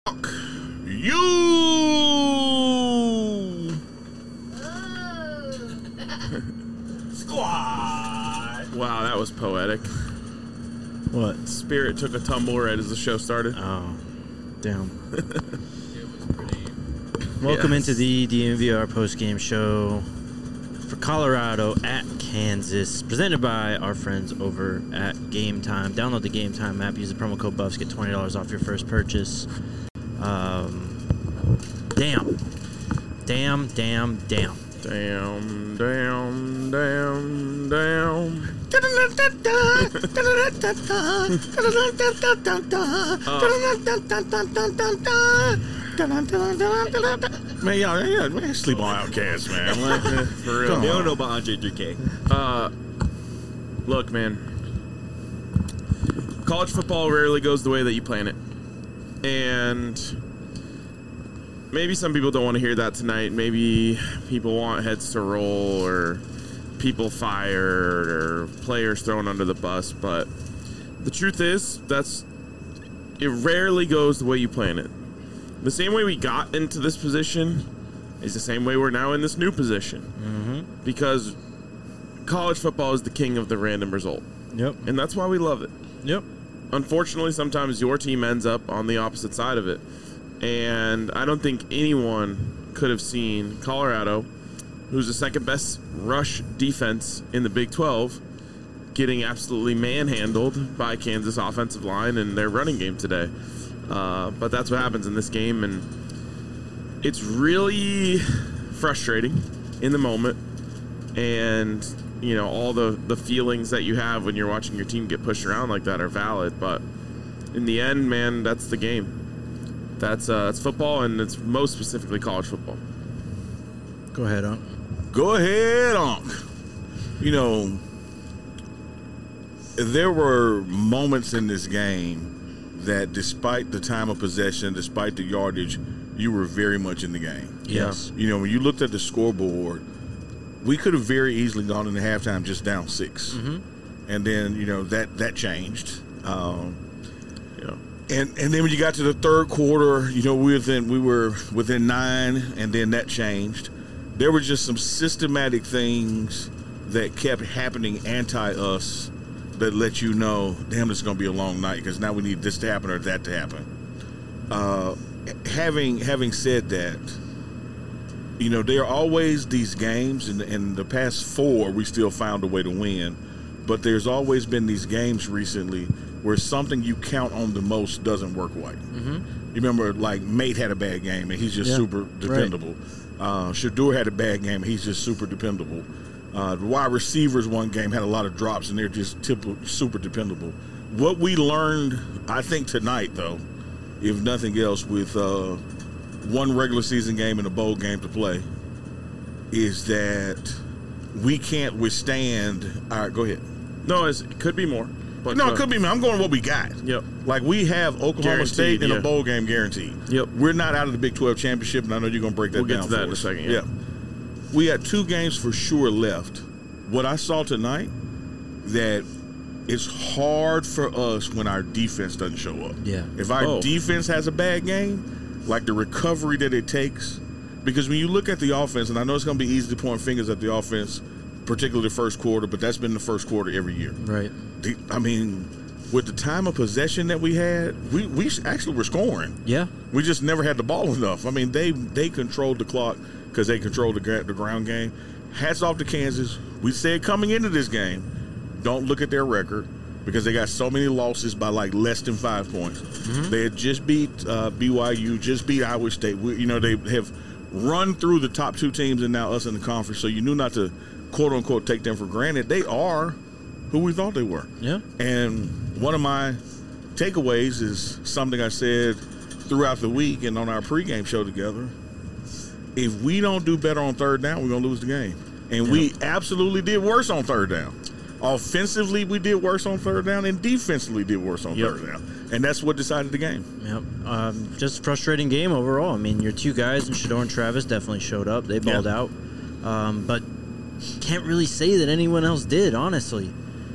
You Squad. Wow, that was poetic. What? Spirit took a tumble right as the show started. Oh, damn. It was pretty. Welcome into the DNVR post-game show for Colorado at Kansas, presented by our friends over at Game Time. Download the Game Time app, use the promo code BUFFS, get $20 off your first purchase. Damn. Damn, damn, damn. Man, y'all, man, sleep on Outcast, man. Like, For real. Come They on. don't know about Andre 3K. Look, man. College football rarely goes the way that you plan it. And maybe some people don't want to hear that tonight. Maybe people want heads to roll or people fired or players thrown under the bus. But the truth is, it rarely goes the way you plan it. The same way we got into this position is the same way we're now in this new position. Mm-hmm. Because college football is the king of the random result. Yep. And that's why we love it. Yep. Unfortunately, sometimes your team ends up on the opposite side of it. And I don't think anyone could have seen Colorado, who's the second best rush defense in the Big 12, getting absolutely manhandled by Kansas offensive line and their running game today. But that's what happens in this game, and it's really frustrating in the moment. And, you know, all the feelings that you have when you're watching your team get pushed around like that are valid. But in the end, man, that's the game. That's football, and it's most specifically college football. Go ahead, Unc. Go ahead, Unc. You know, there were moments in this game that despite the time of possession, despite the yardage, you were very much in the game. Yes. You know, when you looked at the scoreboard, we could have very easily gone into halftime just down 6. Mm-hmm. And then, you know, that changed. Yeah. And then when you got to the third quarter, you know, we were within 9, and then that changed. There were just some systematic things that kept happening anti-us that let you know, damn, this is going to be a long night because now we need this to happen or that to happen. Having said that, you know, there are always these games, and in the past 4, we still found a way to win. But there's always been these games recently where something you count on the most doesn't work right. Mm-hmm. You remember, like, Mate had a bad game, and he's just super dependable. Right. Shadur had a bad game, and he's just super dependable. The wide receivers one game had a lot of drops, and they're just super dependable. What we learned, I think, tonight, though, if nothing else, with one regular season game and a bowl game to play, is that we can't withstand. All right, go ahead. No, it could be more. But No, it could be. I'm going with what we got. Yep. Like, we have Oklahoma Guaranteed, State in yeah. a bowl game guaranteed. Yep. We're not out of the Big 12 championship, and I know you're going to break that We'll down get to that for in a us. second, yeah. We had 2 games for sure left. What I saw tonight, that it's hard for us when our defense doesn't show up. Yeah. If our defense has a bad game, like the recovery that it takes, because when you look at the offense, and I know it's going to be easy to point fingers at the offense, particularly the first quarter, but that's been the first quarter every year. Right. I mean, with the time of possession that we had, we actually were scoring. Yeah. We just never had the ball enough. I mean, they controlled the clock because they controlled the ground game. Hats off to Kansas. We said coming into this game, don't look at their record because they got so many losses by like less than 5 points. Mm-hmm. They had just beat BYU, just beat Iowa State. They have run through the top 2 teams and now us in the conference, so you knew not to, quote-unquote, take them for granted. They are who we thought they were. Yeah. And one of my takeaways is something I said throughout the week and on our pregame show together. If we don't do better on third down, we're going to lose the game. And we absolutely did worse on third down. Offensively, we did worse on third down, and defensively did worse on third down. And that's what decided the game. Yep. Just a frustrating game overall. I mean, your 2 guys, and Shador and Travis, definitely showed up. They balled out. But can't really say that anyone else did, honestly.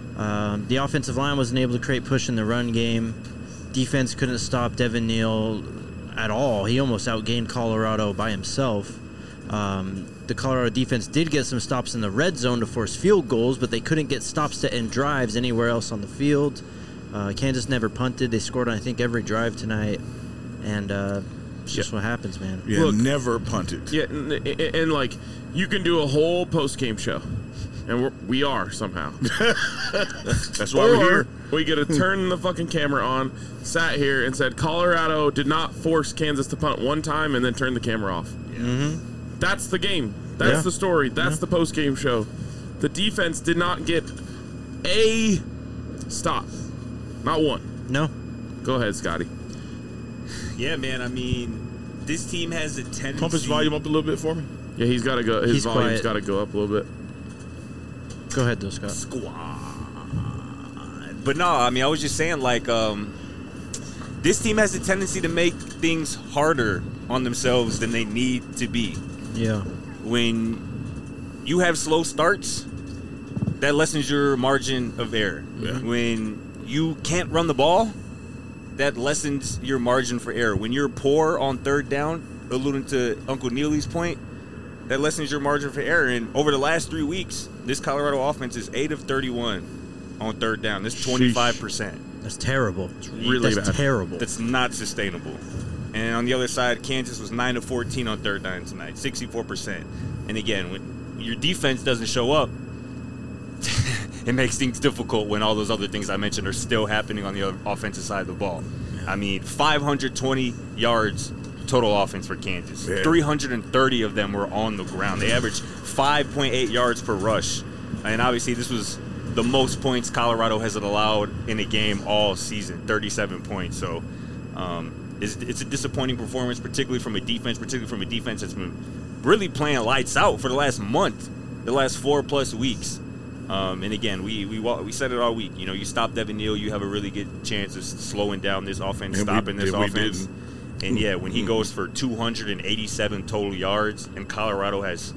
The offensive line wasn't able to create push in the run game. Defense couldn't stop Devin Neal. at all. He almost outgained Colorado by himself. The Colorado defense did get some stops in the red zone to force field goals, but they couldn't get stops to end drives anywhere else on the field. Kansas never punted. They scored on, I think, every drive tonight. And it's just what happens, man. Yeah, Look, never punted. Yeah, and like, you can do a whole post-game show, and we are somehow. That's why we're here. We get to turn the fucking camera on, sat here, and said Colorado did not force Kansas to punt one time, and then turn the camera off. That's the game. That's the story. That's the post-game show. The defense did not get a stop. Not one. No. Go ahead, Scotty. Yeah, man. I mean, this team has a tendency. Pump his volume up a little bit for me. Yeah, he's got to go. His He's volume's quiet. got to go up a little bit. Go ahead, though, Scott. Squad. But no, I mean, I was just saying, like, this team has a tendency to make things harder on themselves than they need to be. Yeah. When you have slow starts, that lessens your margin of error. Yeah. When you can't run the ball, that lessens your margin for error. When you're poor on third down, alluding to Uncle Neely's point, that lessens your margin for error. And over the last 3 weeks, this Colorado offense is 8 of 31 on third down. That's 25%. That's terrible. really That's bad. terrible. That's not sustainable. And on the other side, Kansas was 9 of 14 on third down tonight, 64%. And again, when your defense doesn't show up, it makes things difficult when all those other things I mentioned are still happening on the offensive side of the ball. I mean, 520 yards total offense for Kansas. Yeah. 330 of them were on the ground. They averaged 5.8 yards per rush. And obviously, this was the most points Colorado has allowed in a game all season, 37 points. So it's a disappointing performance, particularly from a defense that's been really playing lights out for the last month, the last 4+ weeks. And again, we said it all week. You know, you stop Devin Neal, you have a really good chance of slowing down this offense, stopping this offense. And yeah, when he goes for 287 total yards and Colorado has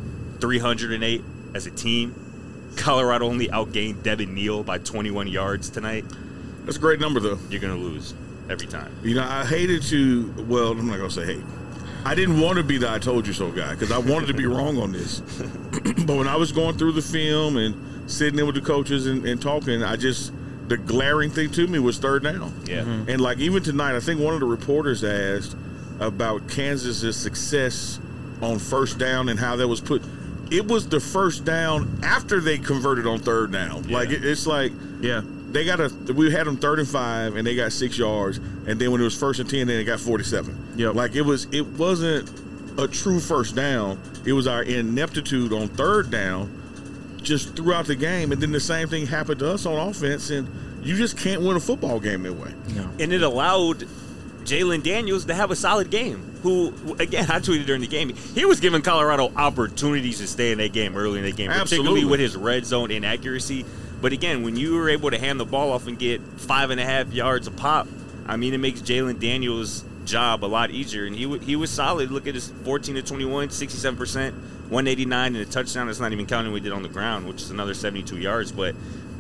308 as a team, Colorado only outgained Devin Neal by 21 yards tonight. That's a great number, though. You're going to lose every time. You know, I hated to, well, I'm not going to say hate. I didn't want to be the I told you so guy because I wanted to be wrong on this. But when I was going through the film and sitting in with the coaches and talking, the glaring thing to me was third down. Yeah. And like even tonight, I think one of the reporters asked about Kansas's success on first down and how that was put. It was the first down after they converted on third down. Yeah. Like it's like Yeah. we had them 3rd and 5 and they got 6 yards, and then when it was 1st and 10, then they got 47. Yep. Like it wasn't a true first down. It was our ineptitude on third down just throughout the game, and then the same thing happened to us on offense, and you just can't win a football game that way. No. And it allowed Jalen Daniels to have a solid game, who, again, I tweeted during the game, he was giving Colorado opportunities to stay in that game early in the game, particularly Absolutely. with his red zone inaccuracy. But again, when you were able to hand the ball off and get 5.5 yards a pop, I mean, it makes Jalen Daniels' job a lot easier. And he was solid. Look at his 14 to 21, 67%, 189, and a touchdown. That's not even counting what he did on the ground, which is another 72 yards. But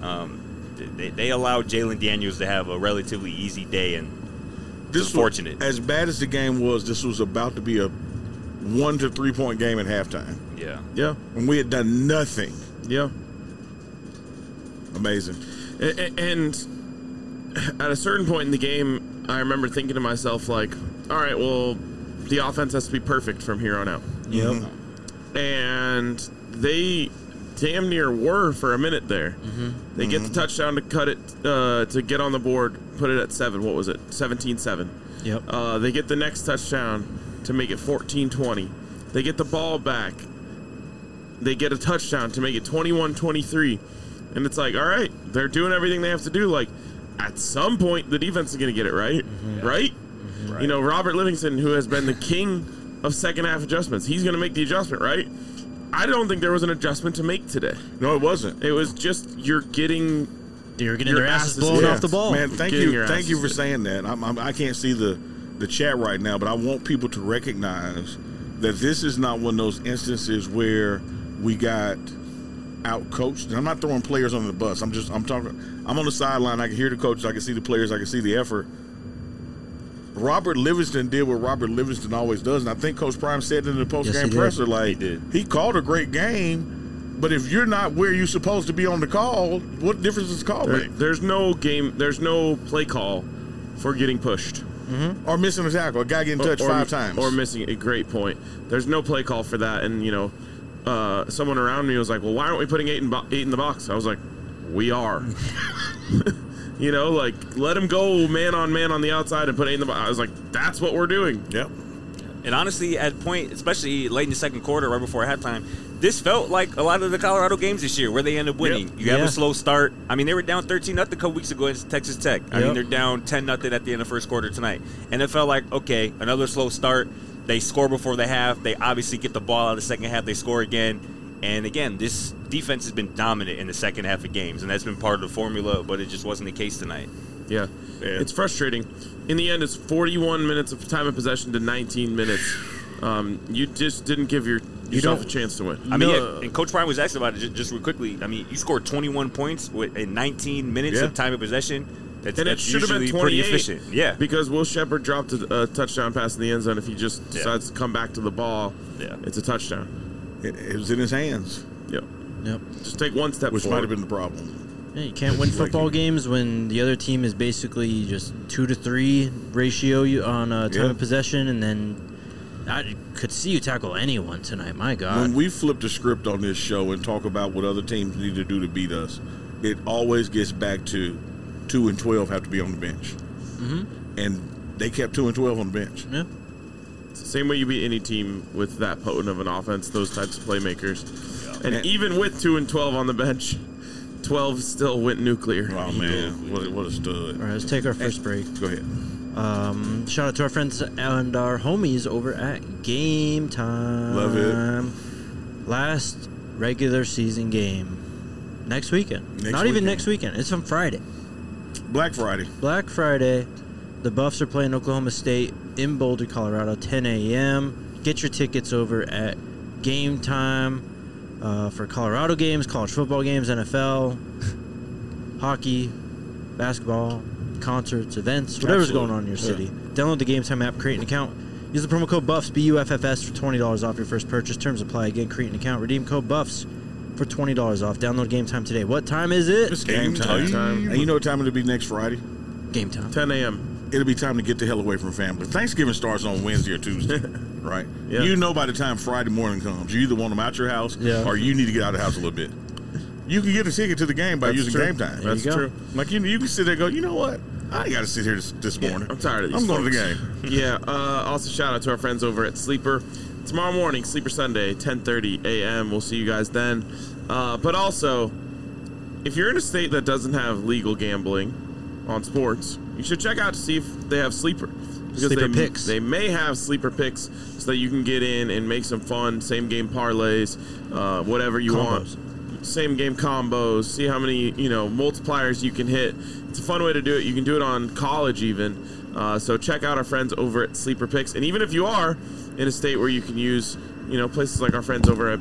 they allowed Jalen Daniels to have a relatively easy day, and This was fortunate. As bad as the game was, this was about to be a 1 to 3 point game at halftime, Yeah. Yeah. and we had done nothing. Yeah. Amazing. And at a certain point in the game, I remember thinking to myself, like, all right, well, the offense has to be perfect from here on out. Yep. And they damn near were for a minute there. They get the touchdown to cut it, to get on the board, put it at 7. What was it? 17-7. Yep. They get the next touchdown to make it 14-20. They get the ball back. They get a touchdown to make it 21-23. And it's like, all right, they're doing everything they have to do. Like, at some point, the defense is going to get it right, right? You know, Robert Livingston, who has been the king of second-half adjustments, he's going to make the adjustment, right? I don't think there was an adjustment to make today. No, it wasn't. It was just you're getting You're getting Your their asses asses- blown yeah. off the ball. Man, thank Getting you your for asses- saying that. I can't see the chat right now, but I want people to recognize that this is not one of those instances where we got out-coached. And I'm not throwing players under the bus. I'm talking. I'm on the sideline. I can hear the coaches. I can see the players. I can see the effort. Robert Livingston did what Robert Livingston always does, and I think Coach Prime said in the post-game Yes, he did. presser, like, He did. he called a great game, but if you're not where you're supposed to be on the call, what difference does the call make? There's no play call for getting pushed. Or missing a tackle, a guy getting touched 5 times. Or missing a great point. There's no play call for that. And, someone around me was like, well, why aren't we putting 8 in the box? I was like, we are. Let him go man on the outside and put 8 in the box. I was like, that's what we're doing. Yep. And honestly, at point, especially late in the second quarter, right before halftime, this felt like a lot of the Colorado games this year where they end up winning. Yep. You have Yeah. a slow start. I mean, they were down 13-0 a couple weeks ago against Texas Tech. I mean, Yep. they're down 10-0 at the end of the first quarter tonight. And it felt like, okay, another slow start. They score before the half. They obviously get the ball out of the second half. They score again. And again, this defense has been dominant in the second half of games, and that's been part of the formula, but it just wasn't the case tonight. Yeah. It's frustrating. In the end, it's 41 minutes of time of possession to 19 minutes. You just didn't give yourself a chance to win. I mean, and Coach Prime was asked about it just real quickly. I mean, you scored 21 points in 19 minutes of time of possession. And it That's should have been usually 28. pretty efficient. Yeah. Because Will Shepard dropped a touchdown pass in the end zone. If he just decides to come back to the ball, it's a touchdown. It was in his hands, Yep. Yep. Just take one step which might forward. have been the problem. Yeah, you can't win football games when the other team is basically just 2 to 3 ratio on time of possession, and then I could see you tackle anyone tonight. My God. When we flip the script on this show and talk about what other teams need to do to beat us, it always gets back to 2 and 12 have to be on the bench. Mm-hmm. And they kept 2 and 12 on the bench. Yeah. It's the same way you beat any team with that potent of an offense, those types of playmakers. And even with 2 and 12 on the bench, 12 still went nuclear. Oh, man. What a stud. All right, let's take our first break. Go ahead. Shout out to our friends and our homies over at Game Time. Love it. Last regular season game next weekend. Not even next weekend. It's on Friday. Black Friday. Black Friday. The Buffs are playing Oklahoma State in Boulder, Colorado, 10 a.m. Get your tickets over at Game Time for Colorado games, college football games, NFL, hockey, basketball, concerts, events, whatever's going on in your city. Download the Game Time app, create an account. Use the promo code BUFFS, BUFFS, for $20 off your first purchase. Terms apply. Again, create an account. Redeem code BUFFS for $20 off. Download Game Time today. What time is it? It's game time. And you know what time it'll be next Friday? Game Time. 10 a.m. It'll be time to get the hell away from family. Thanksgiving starts on Wednesday or Tuesday, right? Yeah. You know by the time Friday morning comes, you either want them out your house or you need to get out of the house a little bit. You can get a ticket to the game by using Game Time. That's true. Like, you can sit there and go, you know what? I ain't got to sit here this morning. I'm tired of these I'm going to the folks. game. Yeah. Also, shout out to our friends over at Sleeper. Tomorrow morning, Sleeper Sunday, 10:30 a.m. We'll see you guys then. But also, if you're in a state that doesn't have legal gambling on sports, you should check out to see if they have Sleeper. Because Sleeper picks. They may have Sleeper picks so that you can get in and make some fun same game parlays, whatever you want. Same game combos, see how many multipliers you can hit. It's a fun way to do it. You can do it on college even. So check out our friends over at Sleeper Picks. And even if you are in a state where you can use places like our friends over at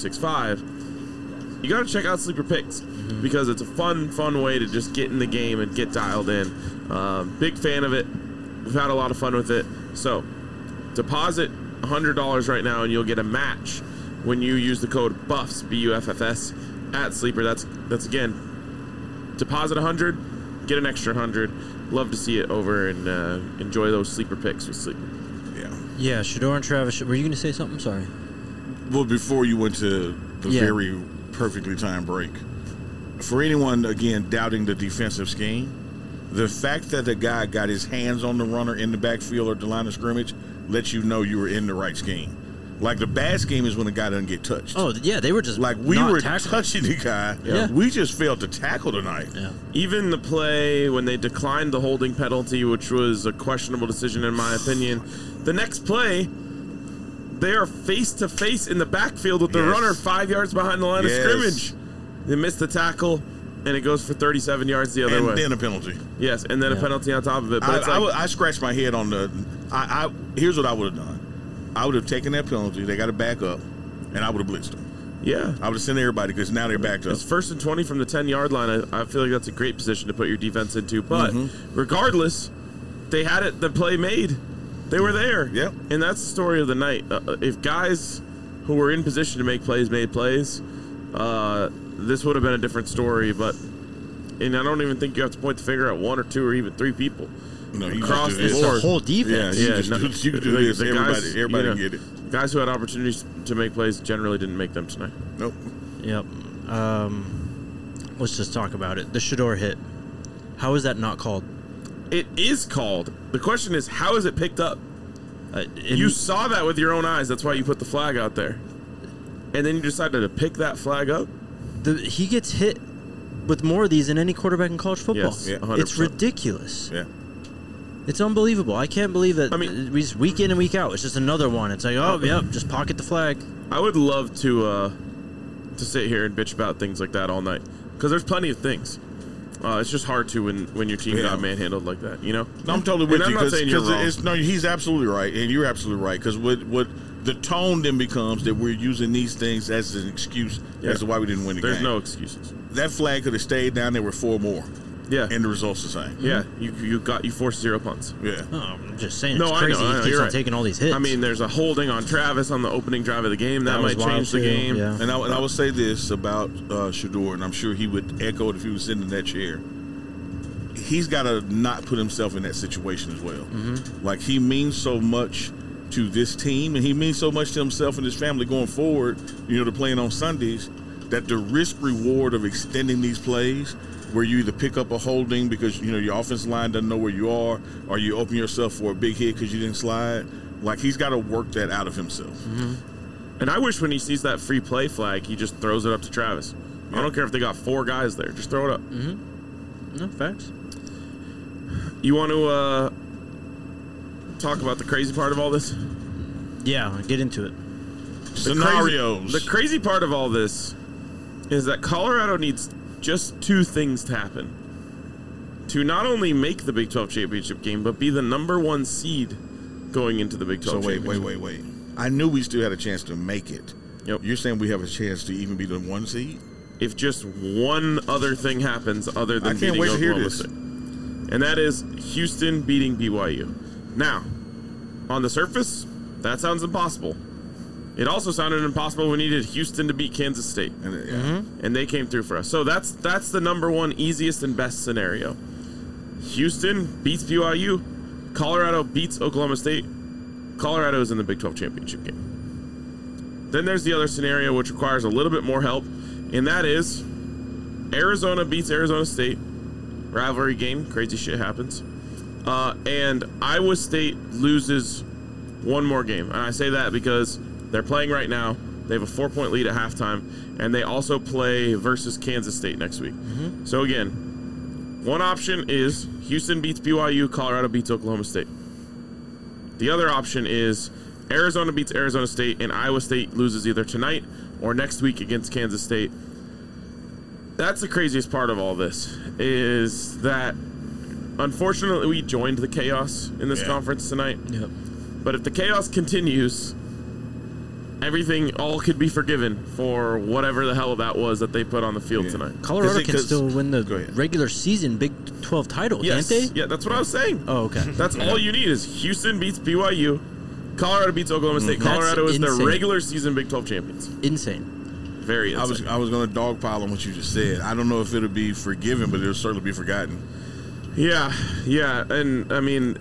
Bet365, you got to check out Sleeper Picks because it's a fun way to just get in the game and get dialed in. Big fan of it. We've had a lot of fun with it. So deposit $100 right now and you'll get a match when you use the code BUFFS, BUFFS, at Sleeper. That's again, deposit 100, get an extra 100. Love to see it over and enjoy those Sleeper Picks with Sleeper. Yeah, Shador and Travis. Were you going to say something? Sorry. Well, before you went to the very perfectly timed break, for anyone, again, doubting the defensive scheme, the fact that the guy got his hands on the runner in the backfield or the line of scrimmage lets you know you were in the right scheme. Like, the bad scheme is when the guy doesn't get touched. Oh, yeah, they were just like, we not were tackling. touching the guy. Yeah. We just failed to tackle tonight. Yeah. Even the play when they declined the holding penalty, which was a questionable decision in my opinion, the next play, they are face-to-face in the backfield with the runner 5 yards behind the line of scrimmage. They missed the tackle, and it goes for 37 yards the other way. And then a penalty. Yes, and then a penalty on top of it. But I scratched my head on the here's what I would have done. I would have taken that penalty. They got to back up, and I would have blitzed them. Yeah. I would have sent everybody because now they're backed up. It's 1st and 20 from the 10-yard line. I feel like that's a great position to put your defense into. But regardless, they had it. The play made. They were there. Yep. And that's the story of the night. If guys who were in position to make plays made plays, this would have been a different story. And I don't even think you have to point the finger at one or two or even three people. No, you Across just do the this. It's board. the whole defense. Yeah, you can do this. Everybody can get it. Guys who had opportunities to make plays generally didn't make them tonight. Nope. Yep. Let's just talk about it. The Shedeur hit. How is that not called? It is called. The question is, how is it picked up? You saw that with your own eyes. That's why you put the flag out there. And then you decided to pick that flag up? He gets hit with more of these than any quarterback in college football. Yes, yeah, 100%. It's ridiculous. Yeah. It's unbelievable. I can't believe that. I mean, we just week in and week out. It's just another one. It's like, oh, yep, just pocket the flag. I would love to sit here and bitch about things like that all night because there's plenty of things. It's just hard to when your team got manhandled like that, you know? No, I'm totally with And you I'm not saying you're wrong. no, he's absolutely right, and you're absolutely right. Because what the tone then becomes that we're using these things as an excuse as to why we didn't win the game. There's no excuses. That flag could have stayed down. There were 4 more. Yeah. And the results the same. Yeah, you forced 0 punts. Yeah. Oh, I'm just saying. No, It's I crazy. know, He keeps you're on right. taking all these hits. I mean, there's a holding on Travis on the opening drive of the game. That was might wild change the too, game. yeah. And I would say this about Shedeur, and I'm sure he would echo it if he was sitting in that chair. He's got to not put himself in that situation as well. Mm-hmm. Like, he means so much to this team, and he means so much to himself and his family going forward, to playing on Sundays, that the risk-reward of extending these plays, where you either pick up a holding because, your offensive line doesn't know where you are, or you open yourself for a big hit because you didn't slide, like, he's got to work that out of himself. Mm-hmm. And I wish when he sees that free play flag, he just throws it up to Travis. I don't care if they got 4 guys there. Just throw it up. Mm-hmm. No, facts. You want to talk about the crazy part of all this? Yeah, get into it. Scenarios. The crazy part of all this is that Colorado needs just 2 things to happen to not only make the Big 12 championship game, but be the number 1 seed going into the Big 12 So championship. wait. I knew we still had a chance to make it. Yep. You're saying we have a chance to even be the 1 seed? If just one other thing happens other than I can't beating wait to hear Oklahoma this. State. And that is Houston beating BYU. Now, on the surface, that sounds impossible. It also sounded impossible when we needed Houston to beat Kansas State. And they came through for us. So that's the number 1 easiest and best scenario. Houston beats BYU. Colorado beats Oklahoma State. Colorado is in the Big 12 championship game. Then there's the other scenario which requires a little bit more help, and that is Arizona beats Arizona State. Rivalry game, crazy shit happens. And Iowa State loses 1 more game. And I say that because they're playing right now. They have a 4-point lead at halftime. And they also play versus Kansas State next week. Mm-hmm. So again, one option is Houston beats BYU, Colorado beats Oklahoma State. The other option is Arizona beats Arizona State, and Iowa State loses either tonight or next week against Kansas State. That's the craziest part of all this, is that unfortunately we joined the chaos in this conference tonight. Yep. But if the chaos continues, everything all could be forgiven for whatever the hell that was that they put on the field tonight. Colorado can still win Go the ahead. regular season Big 12 title, Yes. can't they? Yeah, that's what I was saying. Oh, okay. That's all you need is Houston beats BYU, Colorado beats Oklahoma State. That's Colorado is the insane. regular season Big 12 champions. Insane. Very insane. I was going to dogpile on what you just said. I don't know if it'll be forgiven, but it'll certainly be forgotten. Yeah, and I mean,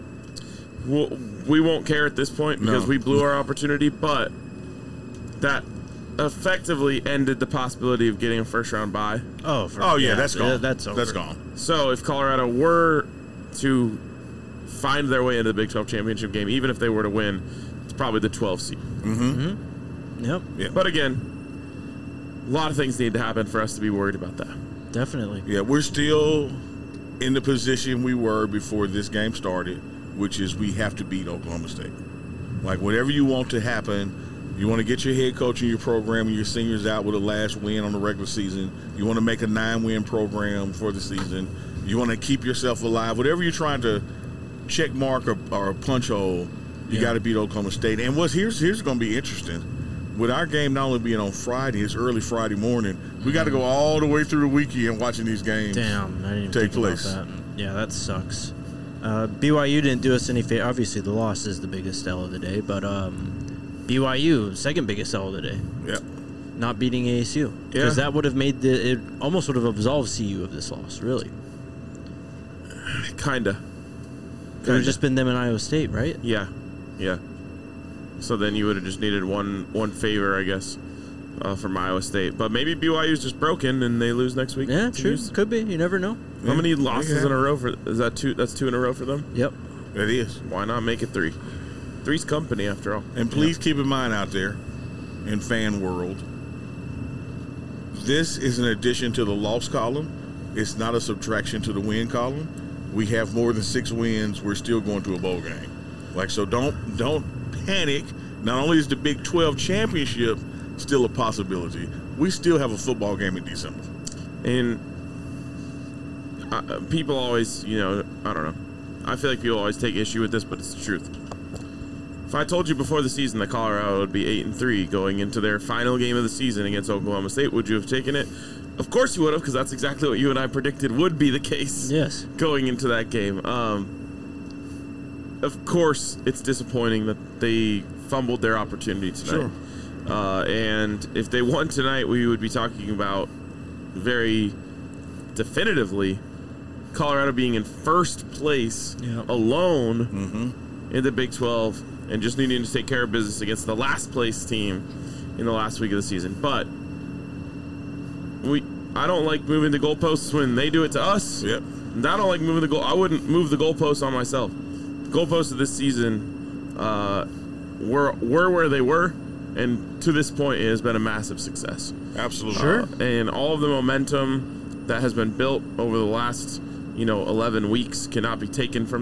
we won't care at this point because we blew our opportunity, but that effectively ended the possibility of getting a first-round bye. Oh, That's gone. That's over. That's gone. So if Colorado were to find their way into the Big 12 championship game, even if they were to win, it's probably the 12th seed. Yep. Yeah. But again, a lot of things need to happen for us to be worried about that. Definitely. Yeah, we're still in the position we were before this game started, which is we have to beat Oklahoma State. Like, whatever you want to happen, you want to get your head coach and your program and your seniors out with a last win on the regular season. You want to make a 9-win program for the season. You want to keep yourself alive. Whatever you're trying to check mark or punch hole, you got to beat Oklahoma State. And here's going to be interesting. With our game not only being on Friday, it's early Friday morning. We got to go all the way through the weekend watching these games. Damn, I didn't even take think place. about that. Yeah, that sucks. BYU didn't do us any favor. Obviously, the loss is the biggest L of the day, but BYU, second biggest L of the day. Yep. Not beating ASU. Because that would have made it almost would have absolved CU of this loss, really. Kinda. It would have just been them and Iowa State, right? Yeah. So then you would have just needed one favor, I guess, from Iowa State. But maybe BYU's just broken and they lose next week. Yeah, true. Could be. You never know. How many losses in a row is that? Two. That's 2 in a row for them. Yep. It is. Why not make it 3? 3's company after all. And please keep in mind out there, in fan world, this is an addition to the loss column. It's not a subtraction to the win column. We have more than 6 wins. We're still going to a bowl game. So don't panic. Not only is the Big 12 championship still a possibility, we still have a football game in December. And people always, I don't know. I feel like people always take issue with this, but it's the truth. If I told you before the season that Colorado would be 8-3 going into their final game of the season against Oklahoma State, would you have taken it? Of course you would have, because that's exactly what you and I predicted would be the case. Yes. Going into that game. Of course, it's disappointing that they fumbled their opportunity tonight. Sure. And if they won tonight, we would be talking about very definitively Colorado being in first place alone in the Big 12 and just needing to take care of business against the last place team in the last week of the season. But I don't like moving the goalposts when they do it to us. Yep. And I don't like moving the goal. I wouldn't move the goalposts on myself. The goalposts of this season were where they were, and to this point, it has been a massive success. Absolutely. Sure. And all of the momentum that has been built over the last 11 weeks cannot be taken from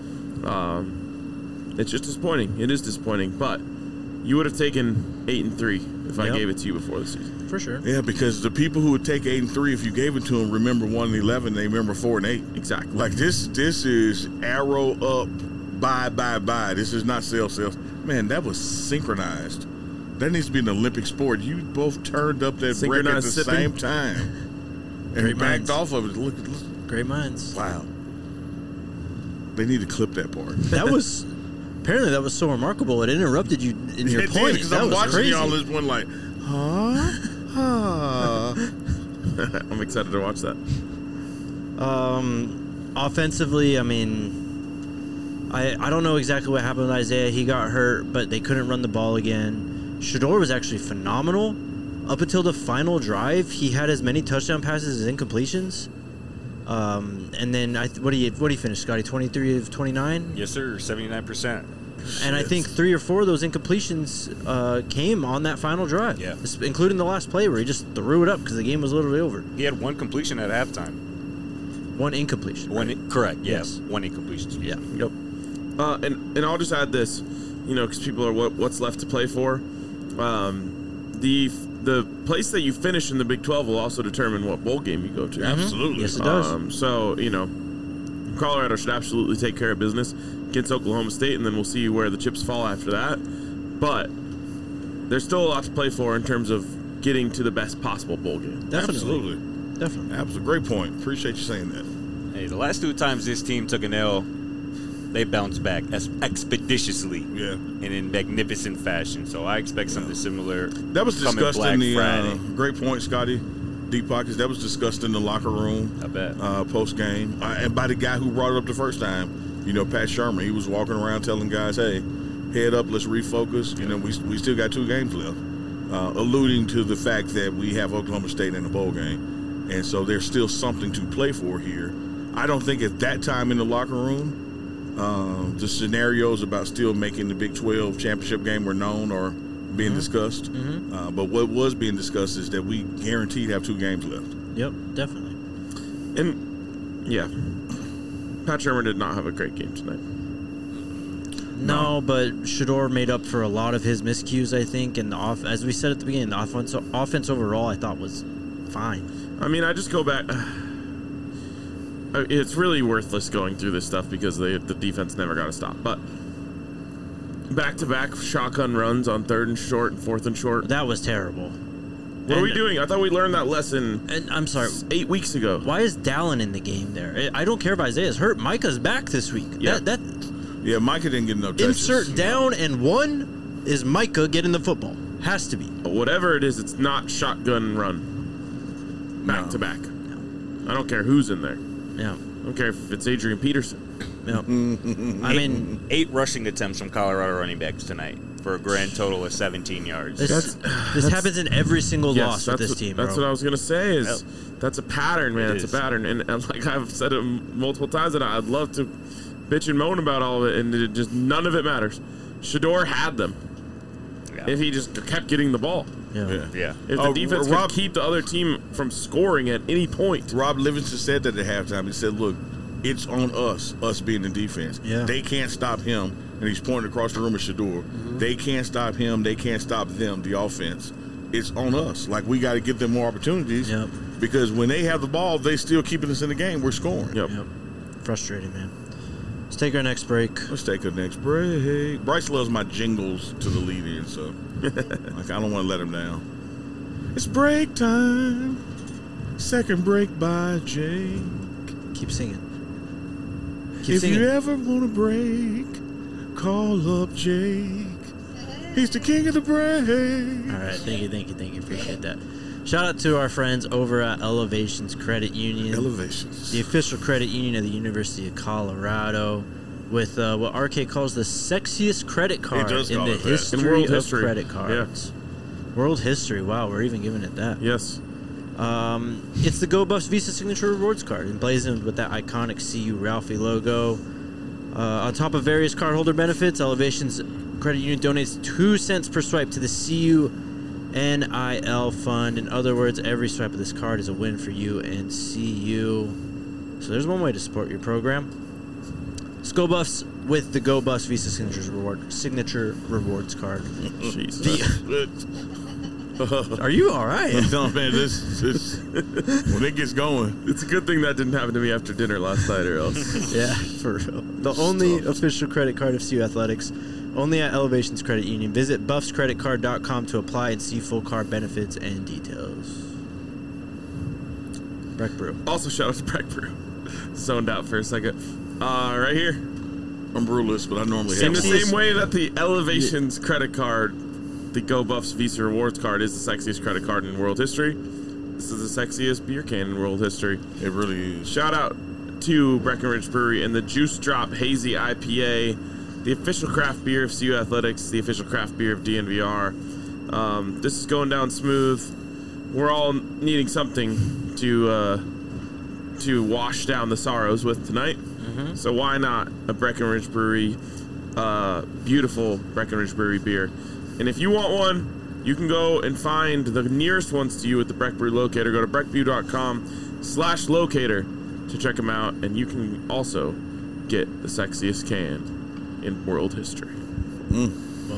them. It's just disappointing. It is disappointing, but you would have taken 8-3 if I gave it to you before the season. For sure. Yeah, because the people who would take 8-3, if you gave it to them, remember 1-11, they remember 4-8. Exactly. This is arrow up, bye. This is not sales. Man, that was synchronized. That needs to be an Olympic sport. You both turned up that brick at the same time. And Great backed minds. off of it. Look. Great minds. Wow. They need to clip that part. That was apparently that was so remarkable. It interrupted you in your point. Because That I'm was watching crazy. you on this one like, I'm excited to watch that. Offensively, I mean, I don't know exactly what happened with Isaiah. He got hurt, but they couldn't run the ball again. Shedeur was actually phenomenal. Up until the final drive, he had as many touchdown passes as incompletions. And then what do you finish, Scotty? 23 of 29. Yes, sir. 79%. And I think 3 or 4 of those incompletions came on that final drive. Yeah. Including the last play where he just threw it up because the game was literally over. He had 1 completion at halftime. 1 incompletion. Correct. Yes. 1 incompletion. Yeah. Yep. And I'll just add this, because people are what's left to play for. The place that you finish in the Big 12 will also determine what bowl game you go to. absolutely. Yes, it does. So, Colorado should absolutely take care of business against Oklahoma State, and then we'll see where the chips fall after that. But there's still a lot to play for in terms of getting to the best possible bowl game. Definitely. Absolutely. Definitely. Absolutely. Great point. Appreciate you saying that. Hey, the last 2 times this team took an L, they bounced back expeditiously Yeah. and in magnificent fashion. So I expect something similar. That was coming discussed Black in the Friday. great point, Scotty. Deep Pockets. That was discussed in the locker room I bet. post game, and by the guy who brought it up the first time. Pat Shermer. He was walking around telling guys, "Hey, head up, let's refocus." We still got 2 games left, alluding to the fact that we have Oklahoma State in the bowl game, and so there's still something to play for here. I don't think at that time in the locker room, the scenarios about still making the Big 12 championship game were known or being discussed. But what was being discussed is that we guaranteed have 2 games left. Yep, definitely. And, yeah, Pat Shermer did not have a great game tonight. No, but Shedeur made up for a lot of his miscues, I think. And as we said at the beginning, the offense overall, I thought was fine. I mean, I just go back. It's really worthless going through this stuff because the defense never got to stop. But back-to-back shotgun runs on 3rd and short and 4th and short. That was terrible. What are we doing? I thought we learned that lesson And I'm sorry. 8 weeks ago. Why is Dallin in the game there? I don't care if Isaiah's hurt. Micah's back this week. Yeah. Yeah, Micah didn't get no touches. Insert down and one is Micah getting the football. Has to be. But whatever it is, it's not shotgun run. Back to back. I don't care who's in there. Yeah. I don't care if it's Adrian Peterson. Yeah. I mean, 8 rushing attempts from Colorado running backs tonight for a grand total of 17 yards. this happens in every single loss with that's this team, That's bro. what I was gonna say. Is that's a pattern, man. It It's is. a pattern, and like I've said it multiple times, and I'd love to bitch and moan about all of it, and it just none of it matters. Shador had them. Yeah. If he just kept getting the ball. Yeah. Yeah. If the defense could keep the other team from scoring at any point. Rob Livingston said that at halftime. He said, look, it's on us being the defense. Yeah. They can't stop him. And he's pointing across the room at Shador. They can't stop him. They can't stop them, the offense. It's on us. Like, we got to give them more opportunities. Yep. Because when they have the ball, they still keeping us in the game. We're scoring. Yep. Yep. Frustrating, man. Let's take our next break. Let's take a next break. Bryce loves my jingles to the lead in, so like I don't want to let him down. It's break time. Second break by Jake. Keep singing. Keep If singing. you ever want to break, call up Jake. He's the king of the break. All right, thank you. Appreciate that. Shout out to our friends over at Elevations Credit Union, Elevations. the official credit union of the University of Colorado, with what RK calls the sexiest credit card does in call the it that. history In world of history. credit cards. World history. Wow, we're even giving it that. Yes. It's the Go Buffs Visa Signature Rewards card, emblazoned with that iconic CU Ralphie logo. On top of various cardholder benefits, Elevations Credit Union donates 2 cents per swipe to the CU NIL Fund. In other words, every swipe of this card is a win for you and CU. So there's one way to support your program. It's Go Buffs with the Go Buffs Visa Signature Rewards card. Jesus. Are you all right? I'm telling you, man, this when it gets going, It's a good thing that didn't happen to me after dinner last night, or else. Yeah, for real. The only official credit card of CU Athletics, only at Elevations Credit Union. Visit buffscreditcard.com to apply and see full card benefits and details. Breck Brew. Also, shout out to Breck Brew. Zoned out for a second. Right here. I'm brewless, but I normally In have the one. same way that the Elevations credit card, the Go Buffs Visa Rewards card, is the sexiest credit card in world history, this is the sexiest beer can in world history. It really is. Shout out to Breckenridge Brewery and the Juice Drop Hazy IPA, the official craft beer of CU Athletics, the official craft beer of DNVR. This is going down smooth. We're all needing something to wash down the sorrows with tonight. So why not a Breckenridge Brewery, beautiful Breckenridge Brewery beer? And if you want one, you can go and find the nearest ones to you at the Breck Brew Locator. Go to breckbrew.com/locator to check them out. And you can also get the sexiest can in world history. Well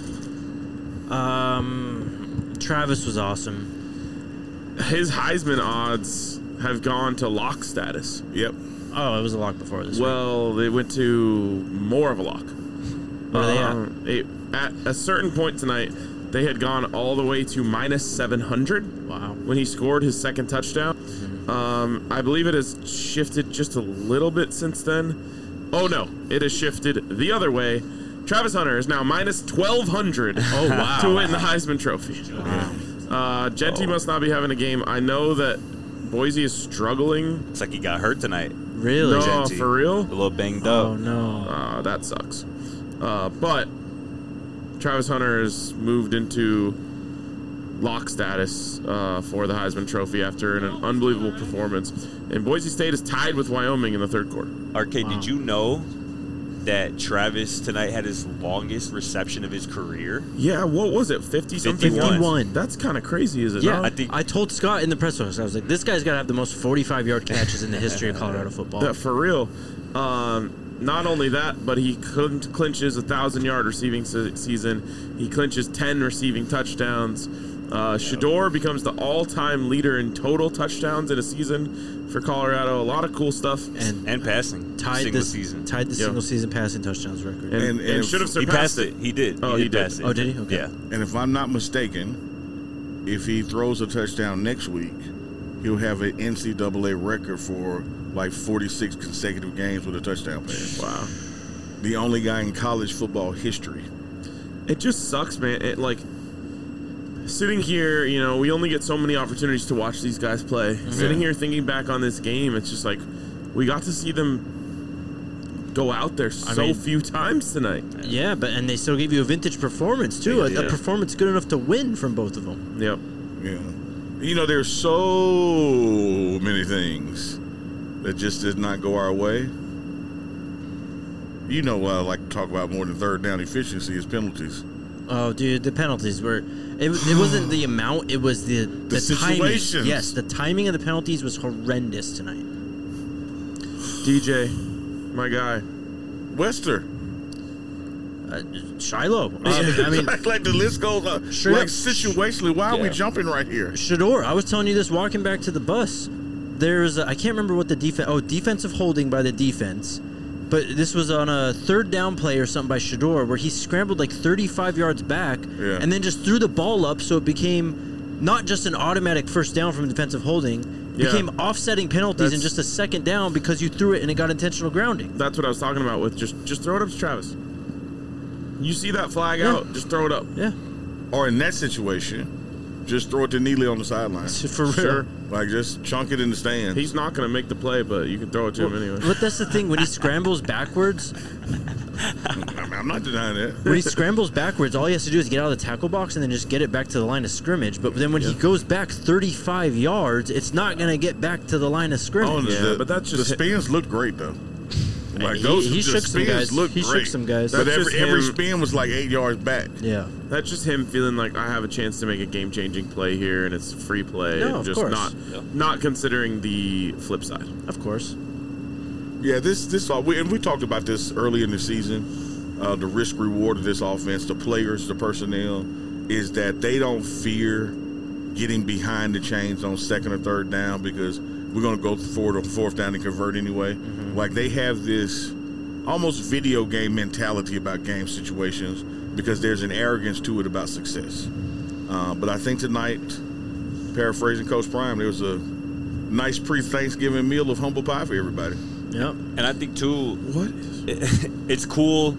done. Travis was awesome. His Heisman odds have gone to lock status. Yep. Oh, it was a lock before this week. Well, they went to more of a lock. What are they at? At a certain point tonight, they had gone all the way to minus 700. Wow. When he scored his second touchdown. I believe it has shifted just a little bit since then. Oh, no. It has shifted the other way. Travis Hunter is now minus 1,200 wow. to win the Heisman Trophy. Wow. Genty must not be having a game. I know that Boise is struggling. It's like he got hurt tonight. Really? No, Genty. for real? A little banged Oh, up. no. That sucks. But Travis Hunter has moved into lock status for the Heisman Trophy after an unbelievable performance. And Boise State is tied with Wyoming in the third quarter. RK, did you know that Travis tonight had his longest reception of his career? Yeah, what was it? 50-something? 51. That's kind of crazy, is it Yeah, not? I I told Scott in the press box, I was like, this guy's got to have the most 45-yard catches in the history of Colorado football. Yeah, for real. Not only that, but he clinches a 1,000-yard receiving season. He clinches 10 receiving touchdowns. Shador becomes the all-time leader in total touchdowns in a season for Colorado. A lot of cool stuff. and passing single season. Tied the Yeah. single season passing touchdowns record. And And should have He surpassed passed it. He did. Oh, he did. pass it. Oh, did he? Okay. Yeah. And if I'm not mistaken, if he throws a touchdown next week, he'll have an NCAA record for like 46 consecutive games with a touchdown pass. Wow. The only guy in college football history. It just sucks, man. It like sitting here, you know, we only get so many opportunities to watch these guys play. Sitting here thinking back on this game, it's just like we got to see them go out there few times tonight. Yeah, and they still gave you a vintage performance too. Yeah. A performance good enough to win from both of them. Yep. Yeah. You know, there's so many things that just did not go our way. You know what I like to talk about more than third down efficiency is penalties. Oh, dude, the penalties were. It wasn't the amount. It was the timing. situations. Yes, the timing of the penalties was horrendous tonight. DJ, my guy. Wester. Shiloh. I mean, like the list goes on. Straight Like up. situationally, why are we Yeah. jumping right here? Shador. I was telling you this walking back to the bus. There's I can't remember what the defense. Oh, defensive holding by the defense. But this was on a third down play or something by Shador where he scrambled like 35 yards back and then just threw the ball up so it became not just an automatic first down from defensive holding, became offsetting penalties in just a second down because you threw it and it got intentional grounding. That's what I was talking about with just throw it up to Travis. You see that flag out, just throw it up. Yeah. Or in that situation, just throw it to Neely on the sideline. For real. Sure. Like, just chunk it in the stands. He's not going to make the play, but you can throw it to him anyway. But that's the thing, when he scrambles backwards, I'm not denying that. when he scrambles backwards, all he has to do is get out of the tackle box and then just get it back to the line of scrimmage. But then when he goes back 35 yards, it's not going to get back to the line of scrimmage. But that's just the spins look great though. Like He- those he the shook some spins guys. look He shook great. some guys. But That's just every him. spin was like 8 yards back. Yeah. That's just him feeling like I have a chance to make a game-changing play here, and it's free play. No, and of just course. not considering the flip side. Of course. Yeah, we talked about this early in the season. The risk reward of this offense, the players, the personnel, is that they don't fear getting behind the chains on second or third down because we're going to go forward on fourth down and convert anyway. Like they have this almost video game mentality about game situations because there's an arrogance to it about success. But I think tonight, paraphrasing Coach Prime, there was a nice pre-Thanksgiving meal of humble pie for everybody. Yep. And I think too, What? it's cool,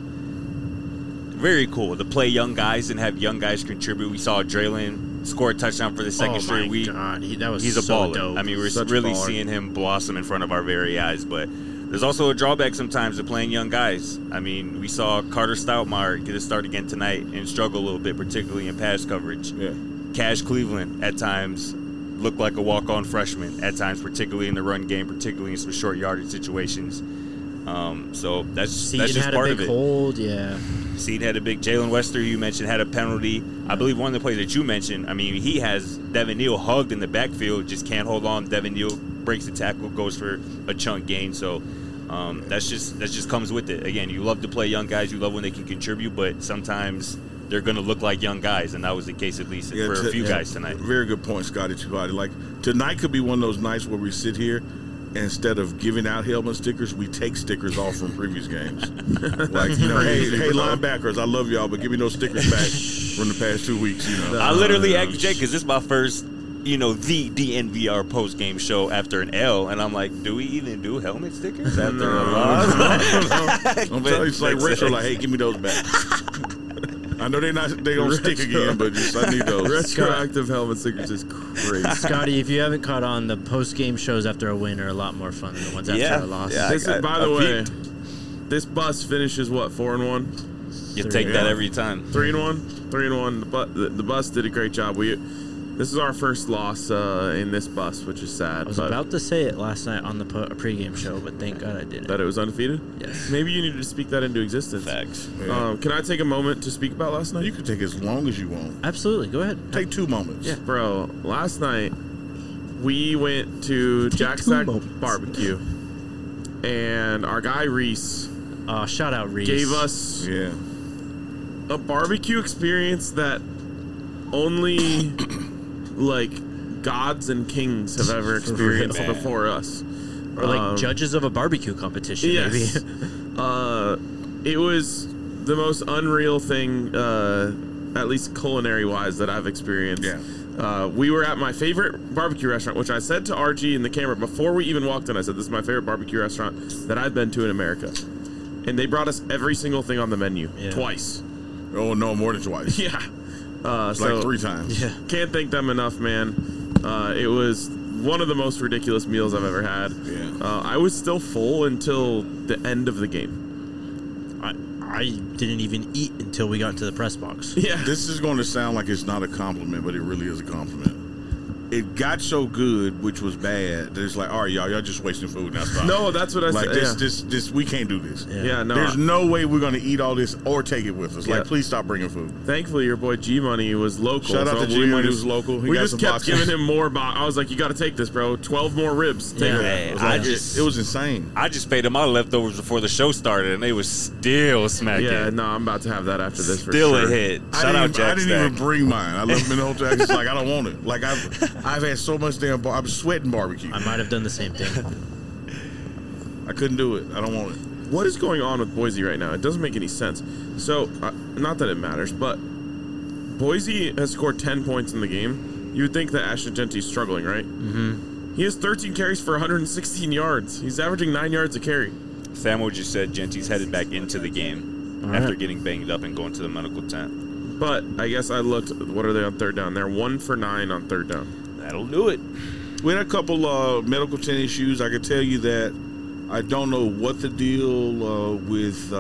very cool to play young guys and have young guys contribute. We saw Draylon score a touchdown for the second straight week. God, that was He's a so baller. dope. I mean, we're Such a really baller. seeing him blossom in front of our very eyes. But there's also a drawback sometimes to playing young guys. I mean, we saw Carter Stoutmire get a start again tonight and struggle a little bit, particularly in pass coverage. Yeah. Cash Cleveland at times looked like a walk-on freshman at times, particularly in the run game, particularly in some short yardage situations. So that's Seaton just had part a of big it. hold, yeah. Seed had a big. Jalen Wester, who you mentioned, had a penalty. I believe one of the plays that you mentioned, I mean, he has Devin Neal hugged in the backfield, just can't hold on. Devin Neal breaks the tackle, goes for a chunk gain. So that just comes with it. Again, you love to play young guys. You love when they can contribute, but sometimes they're going to look like young guys, and that was the case at least for a few guys tonight. Very good point, Scotty Chibati. Like, tonight could be one of those nights where we sit here and instead of giving out helmet stickers, we take stickers off from previous games. Like, you know, hey, linebackers, I love y'all, but give me those stickers back from the past 2 weeks, you know. I literally asked Jake, because this is my first, the DNVR post-game show after an L, and I'm like, do we even do helmet stickers after a loss? I'm telling you, it's like retro, like, hey, give me those back. I know they don't stick again, but just, I need those. Retroactive helmet stickers is crazy. Scotty, if you haven't caught on, the post-game shows after a win are a lot more fun than the ones after a loss. Yeah. This is, by the way, this bus finishes what, 4-1, You take that every time. 3-1, 3-1. The bus did a great job. This is our first loss in this bus, which is sad. I was but about to say it last night on the pregame show, but thank God I didn't. that it was undefeated. Yes. Maybe you needed to speak that into existence. Facts. Yeah. Can I take a moment to speak about last night? You can take as long as you want. Absolutely. Go ahead. Take 2 moments. Yeah. Bro, last night we went to Jack Stack Barbecue, and our guy Reese Shout out Reese. gave us Yeah. a barbecue experience that only like gods and kings have ever experienced real. before us. Or like judges of a barbecue competition, Yes. maybe. It was the most unreal thing at least culinary-wise, that I've experienced. Yeah. We were at my favorite barbecue restaurant, which I said to RG in the camera before we even walked in. I said, this is my favorite barbecue restaurant that I've been to in America. And they brought us every single thing on the menu, twice. Oh, no, more than twice. Yeah. It's like 3 times. Yeah. Can't thank them enough, man. It was one of the most ridiculous meals I've ever had. Yeah. I was still full until the end of the game. I didn't even eat until we got to the press box. Yeah. This is going to sound like it's not a compliment, but it really is a compliment. It got so good, which was bad, that it's like, all right, y'all just wasting food. Now stop. No, that's what I like said. this, we can't do this. Yeah, no. There's no way we're going to eat all this or take it with us. Yeah. Like, please stop bringing food. Thankfully, your boy G Money was local. Shout out to G Money, who's local. He We got just some kept boxes. giving him more. I was like, you got to take this, bro. 12 more ribs. Take Yeah. it. Hey, It was insane. I just paid him my leftovers before the show started, and they was still smacking. Yeah, no, I'm about to have that after this for Still sure. a hit. I Shout out didn't Jack even Stack. bring mine. I left them in the hotel. I just like, I don't want it. Like, I've had so much damn I'm sweating barbecue. I might have done the same thing. I couldn't do it. I don't want it. What is going on with Boise right now? It doesn't make any sense. So, not that it matters, but Boise has scored 10 points in the game. You would think that Ashton Genty's struggling, right? Mm-hmm. He has 13 carries for 116 yards. He's averaging 9 yards a carry. Samuel just said Genty's headed back into the game All after right. getting banged up and going to the medical tent. But I guess I looked. What are they on third down? They're 1 for 9 on third down. That'll do it. We had a couple medical tent issues. I can tell you that I don't know what the deal with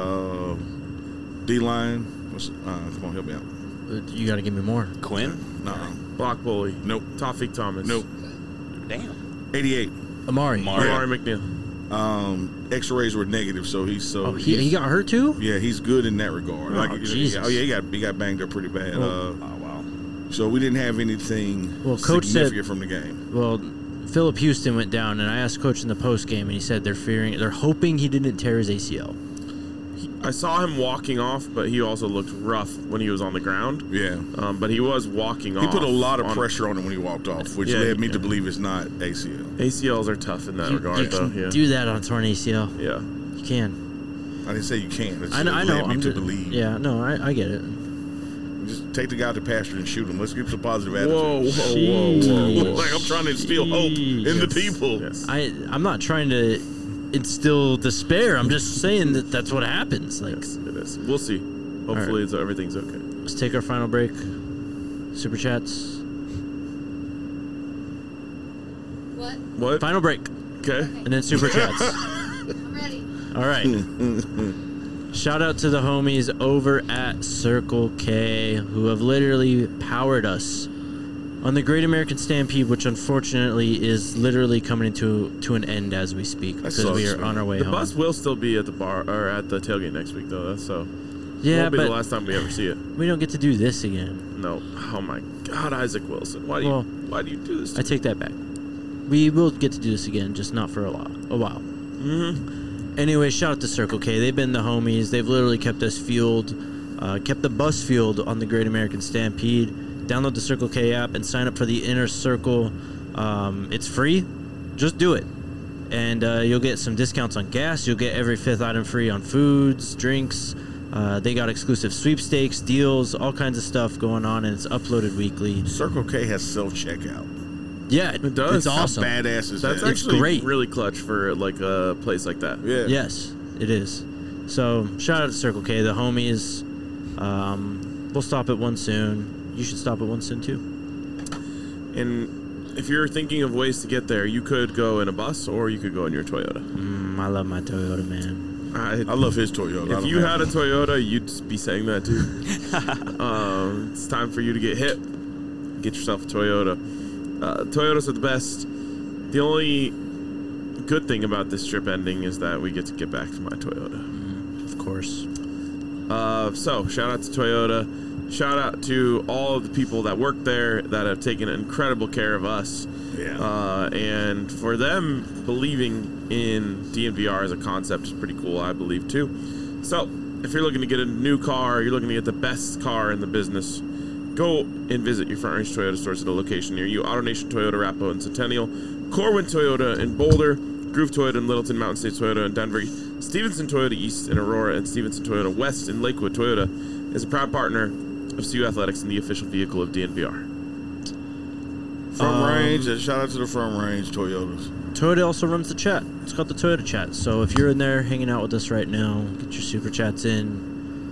D-line. Come on, help me out. You got to give me more. Quinn? No. Block bully. Nope. Tawfiq Thomas. Nope. Damn. 88. Amari. Amari McNeil. X-rays were negative, so he's Oh, he got hurt too? yeah, he's good in that regard. Oh, Jesus. He got banged up pretty bad. Oh, wow. So we didn't have anything Coach said- significant from the game. Well, Philip Houston went down, and I asked Coach in the post game, and he said they're hoping he didn't tear his ACL. I saw him walking off, but he also looked rough when he was on the ground. Yeah. But he was walking off. He put a lot of pressure on him when he walked off, which Yeah, led me yeah. to believe it's not ACL. ACLs are tough in that regard, You though. can Yeah. do that on a torn ACL. Yeah. You can. I didn't say you can't. It's I know. led me I'm to just, believe. Yeah, no, I get it. Just take the guy to pasture and shoot him. Let's keep some positive attitude. Whoa, whoa, whoa. Like I'm trying to instill hope in the people. Yes. I'm not trying to instill despair. I'm just saying that that's what happens. Like, Yes, it is. We'll see. Hopefully, everything's okay. let's take our final break. Super chats. What? What? Final break, Okay. and then super chats. I'm ready. All right. Shout out to the homies over at Circle K who have literally powered us on the Great American Stampede, which unfortunately is literally coming to an end as we speak because we sucks, are on our way The home. bus will still be at the bar or at the tailgate next week, though. That's so. Yeah, Won't be the but last time we ever see it. we don't get to do this again. No. Oh my God, Isaac Wilson. Why do you do this? I take that back. We will get to do this again, just not for a while. Mm-hmm. Anyway, shout out to Circle K. They've been the homies. They've literally kept us fueled, kept the bus fueled on the Great American Stampede. Download the Circle K app and sign up for the Inner Circle. It's free. Just do it. And you'll get some discounts on gas. You'll get every 5th item free on foods, drinks. They got exclusive sweepstakes, deals, all kinds of stuff going on, and it's uploaded weekly. Circle K has self-checkout. Yeah, It does. It's awesome. How badass is That's that? It's actually great. really clutch for like a place like that. Yeah. Yes, it is. So shout out to Circle K, the homies. We'll stop at one soon. You should stop at one soon too. And if you're thinking of ways to get there, you could go in a bus or you could go in your Toyota. I love my Toyota, man. I love his Toyota. If you had a Toyota, you'd be saying that too. It's time for you to get hip. Get yourself a Toyota. Toyotas are the best. The only good thing about this trip ending is that we get to get back to my Toyota. Of course. So, shout out to Toyota. Shout out to all of the people that work there that have taken incredible care of us. Yeah. And for them, believing in DNVR as a concept is pretty cool, I believe, too. So, if you're looking to get a new car, you're looking to get the best car in the business, go and visit your Front Range Toyota stores at a location near you. AutoNation Toyota, Arapahoe, and Centennial. Corwin Toyota in Boulder. Groove Toyota in Littleton. Mountain State Toyota in Denver. Stevenson Toyota East in Aurora. And Stevenson Toyota West in Lakewood. Toyota is a proud partner of CU Athletics and the official vehicle of DNVR. Front range. Shout out to the Front Range Toyotas. Toyota also runs the chat. It's called the Toyota chat. So if you're in there hanging out with us right now, get your super chats in.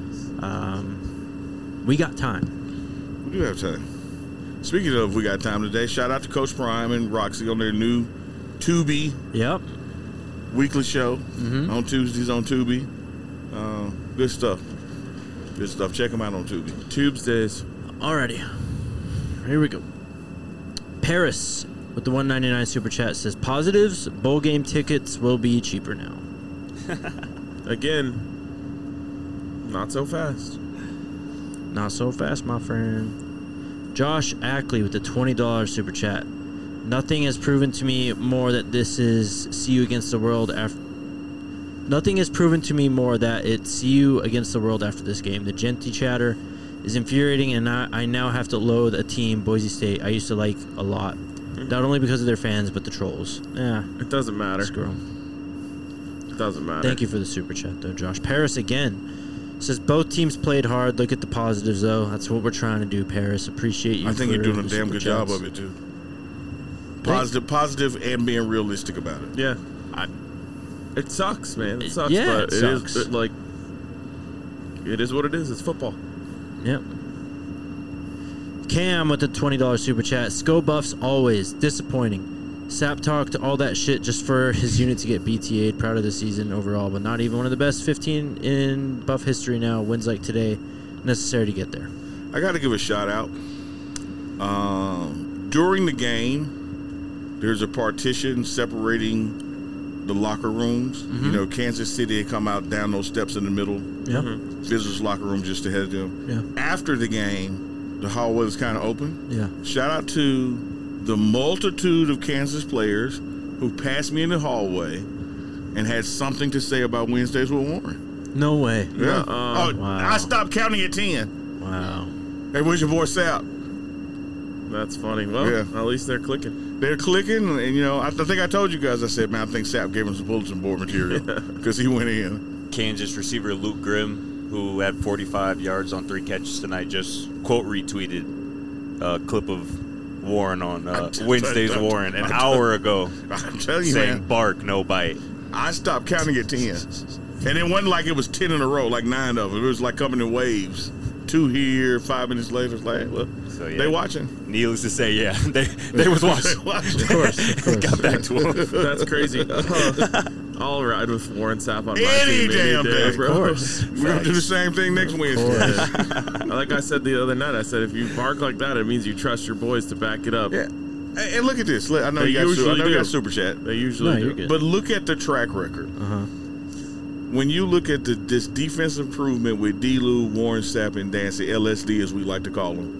We got time. We do have time. Speaking of, we got time today. Shout out to Coach Prime and Roxy on their new Tubi Yep. weekly show on Tuesdays on Tubi. Good stuff. Good stuff. Check them out on Tubi. Tubes days. Alrighty. Here we go. Paris with the $1.99 super chat says positives. Bowl game tickets will be cheaper now. Again, not so fast. Not so fast, my friend. Josh Ackley with the $20 super chat. Nothing has proven to me more that this is CU against the world after. Nothing has proven to me more that it's CU against the world after this game. The Genty chatter is infuriating, and I now have to loathe a team, Boise State, I used to like a lot. Not only because of their fans, but the trolls. Yeah, It doesn't matter. screw 'em. It doesn't matter. Thank you for the super chat, though, Josh. Paris again says both teams played hard. Look at the positives, though. That's what we're trying to do, Paris. Appreciate you. I think for you're doing a the damn super good job chats. of it, too. Positive, and being realistic about it. Yeah. It sucks, man. It sucks. Yeah, but it sucks. Is like, it is what it is. It's football. Yep. Cam with the $20 super chat. Sco Buffs always disappointing. Sap talked all that shit just for his unit to get BTA'd. Proud of the season overall, but not even one of the best 15 in Buff history now. Wins like today necessary to get there. I got to give a shout out. During the game, there's a partition separating the locker rooms. You know, Kansas City had come out down those steps in the middle. Yeah. Visitors' locker room just ahead of them. Yeah. After the game, the hallway was kind of open. Yeah. Shout out to the multitude of Kansas players who passed me in the hallway and had something to say about Wednesdays with Warren. No way. Yeah. Wow. I stopped counting at 10. Wow. Hey, where's your boy Sap? That's funny. Well, Yeah. at least they're clicking. They're clicking, and you know, I think I told you guys. I said, man, I think Sap gave him some bulletin board material because he went in. Kansas receiver Luke Grimm, who had 45 yards on 3 catches tonight, just quote retweeted a clip of Warren on Wednesday's Warren an hour ago, I'm telling you, saying man, bark, no bite. I stopped counting at 10, and it wasn't like it was 10 in a row, like 9 of them. It was like coming in waves. 2 here, 5 minutes later. It's like, well, So, yeah. they watching. Needless to say, yeah, they was watching. Of course. Got back to him. That's crazy. I'll ride with Warren Sapp on my Any team damn day. bro. Of course. We're gonna do the same thing next Wednesday. Like I said the other night, I said if you bark like that, it means you trust your boys to back it up. Yeah. And look at this. I know They you got usually do. super chat. They usually No, do. you're good. But look at the track record. When you look at this defense improvement with D-Lou, Warren Sapp, and Dancy, LSD as we like to call them.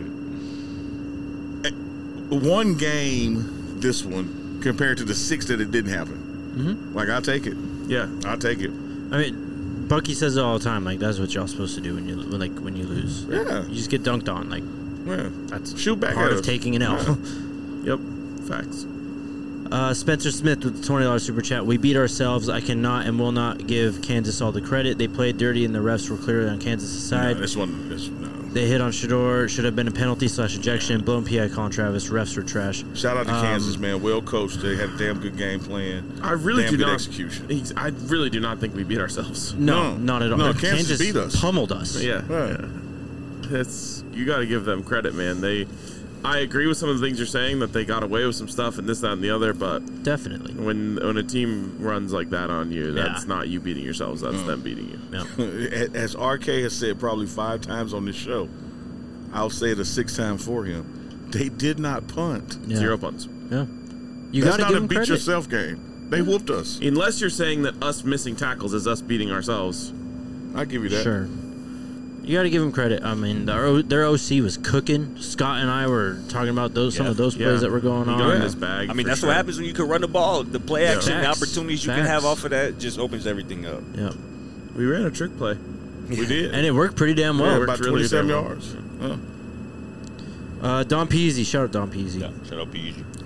One game, this one, compared to the 6 that it didn't happen. Like, I'll take it. Yeah. I'll take it. I mean, Bucky says it all the time. Like, that's what y'all supposed to do when you lose. Yeah. You just get dunked on. Like, Yeah. that's Shoot back part at of us. taking an L. Yep. Facts. Spencer Smith with the $20 super chat. We beat ourselves. I cannot and will not give Kansas all the credit. They played dirty and the refs were clearly on Kansas' side. No, no. They hit on Shador. Should have been a penalty / ejection. Blown PI call on Travis. Refs were trash. Shout out to Kansas, man. Well coached. They had a damn good game plan. I really damn do good not. execution. I really do not think we beat ourselves. No, not at all. No, Kansas beat us. Pummeled us. Yeah. Right. It's you got to give them credit, man. I agree with some of the things you're saying that they got away with some stuff and this, that, and the other. But Definitely. when a team runs like that on you, that's Yeah. not you beating yourselves. That's them beating you. Yeah. As RK has said probably 5 times on this show, I'll say it a 6th time for him. They did not punt. Yeah. 0 punts. Yeah. You That's got to not give a them beat credit. yourself game. They whooped us. Unless you're saying that us missing tackles is us beating ourselves. I give you that. Sure. You got to give them credit. I mean, their OC was cooking. Scott and I were talking about some of those plays that were going He on. got in his bag. I mean, for that's sure. what happens when you can run the ball. The play action, the Facts. opportunities you can Facts. have off of that just opens everything up. Yeah. We ran a trick play. We did. And it worked pretty damn Yeah, well. about really 27 damn well. yards. Don Peasy. Shout out Don Peasy. Yeah, shut up, easy.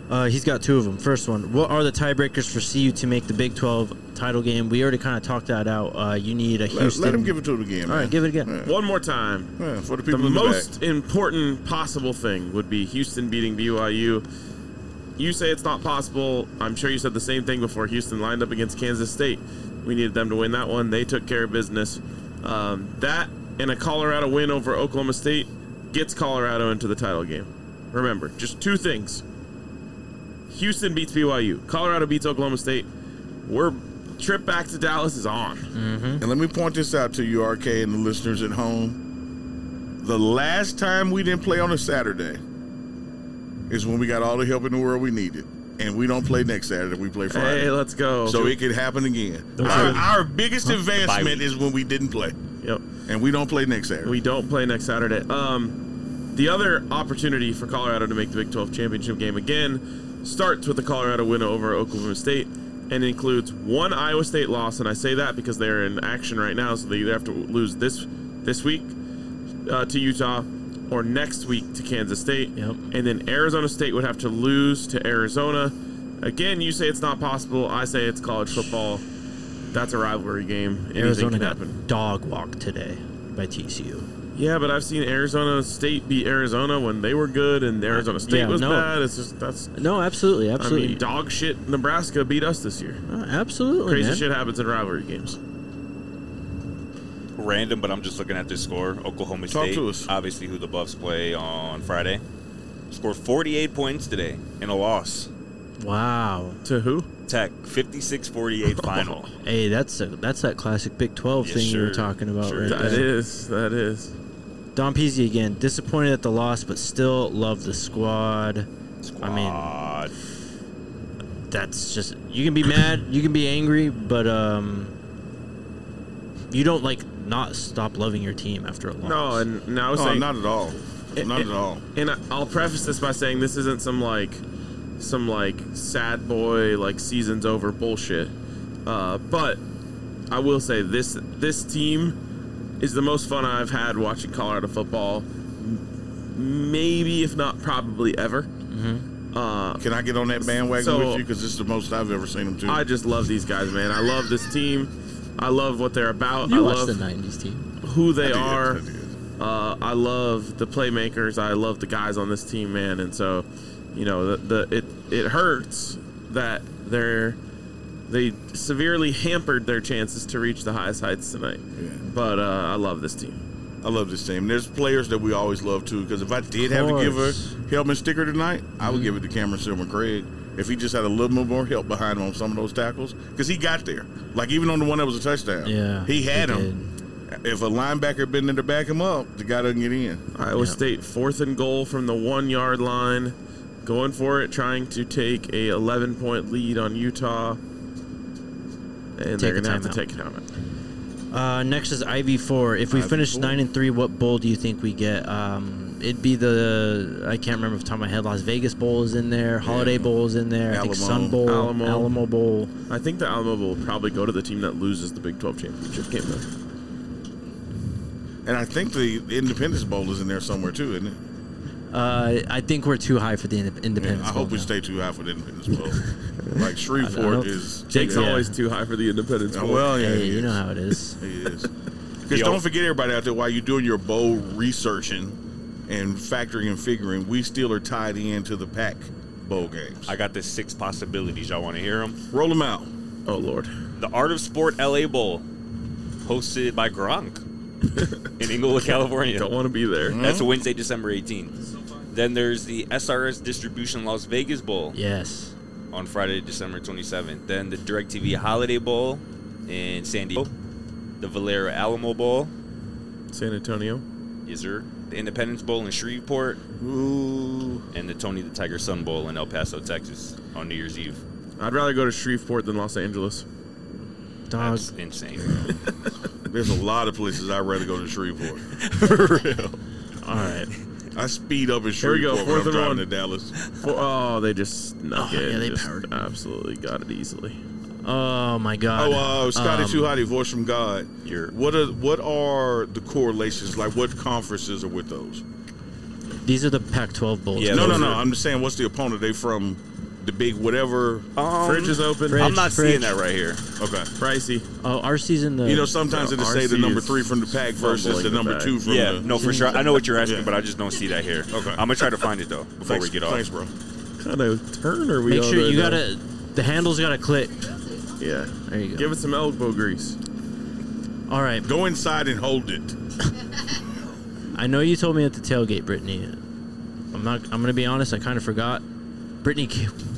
He's got two of them. First one, what are the tiebreakers for CU to make the Big 12 title game? We already kind of talked that out. You need a Houston. Let him give it to him again, man. All right, give it again. One more time. Yeah, for the The people in the most back. important possible thing would be Houston beating BYU. You say it's not possible. I'm sure you said the same thing before Houston lined up against Kansas State. We needed them to win that one. They took care of business. That and a Colorado win over Oklahoma State gets Colorado into the title game. Remember, just two things. Houston beats BYU. Colorado beats Oklahoma State. We're trip back to Dallas is on. And let me point this out to you, RK, and the listeners at home. The last time we didn't play on a Saturday is when we got all the help in the world we needed. And we don't play next Saturday. We play Friday. Hey, let's go. So it could happen again. Those Our biggest Bye advancement week. is when we didn't play. Yep. And we don't play next Saturday. We don't play next Saturday. The other opportunity for Colorado to make the Big 12 championship game again starts with the Colorado win over Oklahoma State and includes one Iowa State loss. And I say that because they're in action right now, so they either have to lose this week to Utah or next week to Kansas State. Yep. And then Arizona State would have to lose to Arizona. Again, you say it's not possible. I say it's college football. That's a rivalry game. Anything Arizona can got happen. dog walked today by TCU. Yeah, but I've seen Arizona State beat Arizona when they were good, and Arizona State Yeah, was no. bad. It's just that's. No, absolutely, absolutely. I mean, dog shit. Nebraska beat us this year. Absolutely, Crazy man. shit happens in rivalry games. Random, but I'm just looking at this score. Oklahoma Talk State, to us. obviously who the Buffs play on Friday, scored 48 points today in a loss. Wow. To who? Tech, 56-48 final. Hey, that's that classic Big 12 Yes, thing you were sir. talking about Sure right That there. is. That is. Don Peasy again, disappointed at the loss, but still love the squad. I mean, Squad. that's just, you can be mad, you can be angry, but you don't not stop loving your team after a loss. No, and now No, saying not at all. Not at all. And I'll preface this by saying this isn't some sad boy season's over bullshit. But I will say this team is the most fun I've had watching Colorado football, maybe if not probably ever. Can I get on that bandwagon So- with you? Because this is the most I've ever seen them do. I just love these guys, man. I love this team. I love what they're about. You I watched love the 90s team. who they I did, are. I did. I love the playmakers. I love the guys on this team, man. And so, it hurts that they severely hampered their chances to reach the highest heights tonight. Yeah. But I love this team. I love this team. There's players that we always love too. Because if I did have to give a course. helmet sticker tonight, I would give it to Cameron Silver Craig. If he just had a little bit more help behind him on some of those tackles, because he got there. Like even on the one that was a touchdown, Yeah, he had he him. If a linebacker had been there to back him up, the guy doesn't get in. Iowa Yeah. State 4th and goal from the 1 yard line, going for it, trying to take a 11-point lead on Utah, and they're a going to have to timeout. take it out. Next is IV4. If we finish IV4. 9-3, what bowl do you think we get? It'd be I can't remember off the top of my head. Las Vegas Bowl is in there. Holiday Bowl is in there. I think Alamo. Sun Bowl, Alamo. Alamo Bowl. I think the Alamo will probably go to the team that loses the Big 12 championship game, though. And I think the Independence Bowl is in there somewhere too, isn't it? I think we're too high for the Independence I Bowl hope we now. stay too high for the Independence Bowl. Like I Shreveport don't- is. Jake's Yeah. always too high for the Independence Bowl. Well, yeah, Hey, he you is. know how it is. He is. Because don't forget, everybody out there, while you're doing your bowl researching and factoring and figuring, we still are tied into the Pac bowl games. I got the 6 possibilities. Y'all want to hear them? Roll them out. Oh, Lord. The Art of Sport LA Bowl, hosted by Gronk in Inglewood, California. Don't want to be there. That's Wednesday, December 18th. Then there's the SRS Distribution Las Vegas Bowl Yes. on Friday, December 27th. Then the DirecTV Holiday Bowl in San Diego. The Valera Alamo Bowl, San Antonio. yes sir. The Independence Bowl in Shreveport. Ooh. And the Tony the Tiger Sun Bowl in El Paso, Texas on New Year's Eve. I'd rather go to Shreveport than Los Angeles. Dog. That's insane. There's a lot of places I'd rather go to Shreveport. For real. All right. I speed up in Here we go, Shreveport when I'm 4th and driving 1. to Dallas. Oh, they just snuck Oh, it. yeah, they Just powered. absolutely got it easily. Oh my God. Scotty Too Hotty, voice from God. You're- What are the correlations? Like, what conferences are with those? These are the Pac-12 bowls. Yeah, No. those are- I'm just saying, what's the opponent? They from the big whatever. Fridge is open. Fridge. I'm not seeing that right here. Okay. Pricey. Oh, our season. The You know, sometimes it'll say the RC number is 3 from the pack versus fumbling the the number bag. 2 from Yeah, the. no, for sure. I know what you're asking, Yeah. but I just don't see that here. Okay. I'm gonna try to find it though before Thanks, we get off. Thanks, bro. Kind of turn are we make on sure right you now? gotta. The handle's gotta click. Yeah. There you go. Give it some elbow grease. All right. Go inside and hold it. I know you told me at the tailgate, Brittany. I'm gonna be honest. I kind of forgot. Brittany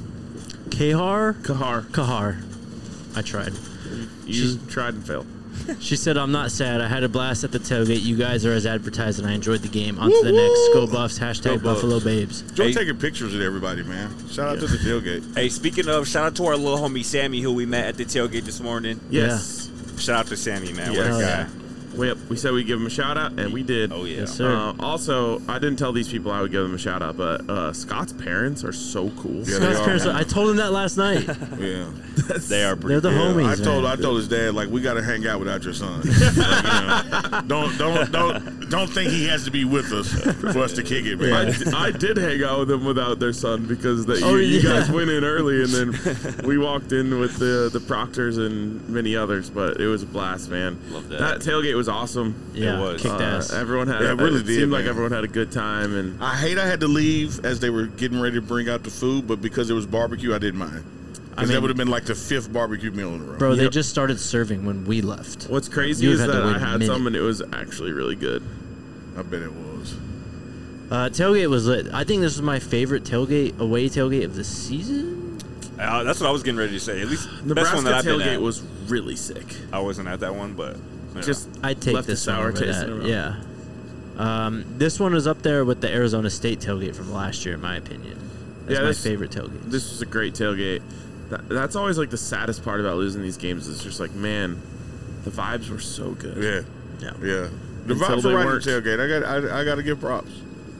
Kahar. Kahar. I tried. You tried and failed. She said, "I'm not sad. I had a blast at the tailgate. You guys are as advertised, and I enjoyed the game. On to the next. Go Buffs. Hashtag Go Buffs. Buffalo Babes." Joe Hey. taking pictures of everybody, man. Shout out to the tailgate. Hey, speaking of, shout out to our little homie Sammy who we met at the tailgate this morning. Yes. Shout out to Sammy, man. Yeah. What a Hell guy. yeah. We said we'd give him a shout out, and we did. Oh yeah. Yes, sir. Also, I didn't tell these people I would give them a shout out, but Scott's parents are so cool. Yeah, Scott's they are. parents, I told him that last night. Yeah. They are pretty. They're the Yeah, homies. I man. told his dad, like, we got to hang out without your son. Like, don't think he has to be with us for us to kick it, man. I did hang out with them without their son because Oh, you yeah. guys went in early and then we walked in with the Proctors and many others, but it was a blast, man. Love that. That tailgate was awesome. Yeah, was. kicked ass. Everyone had Yeah, it really it did, seemed like man. everyone had a good time, and I hate I had to leave as they were getting ready to bring out the food, but because it was barbecue, I didn't mind. Because that mean- would have been like the 5th barbecue meal in a row. Bro, they Yep. just started serving when we left. what's crazy You is had to that wait I a had minute. some and it was actually really good. I bet it was. Tailgate was lit. I think this was my favorite away tailgate of the season. That's what I was getting ready to say. At least the best Nebraska one that I've been tailgate at. was really sick. I wasn't at that one, but you know. Just I'd take left this a one sour over taste that. in my mouth. Yeah. This one is up there with the Arizona State tailgate from last year, in my opinion. That's Yeah, my this- favorite tailgate. This was a great tailgate. That's always like the saddest part about losing these games. It's just like, man, the vibes were so good. Yeah, Yeah. yeah. The Until vibes they were right weren't. at the tailgate. I got to give props.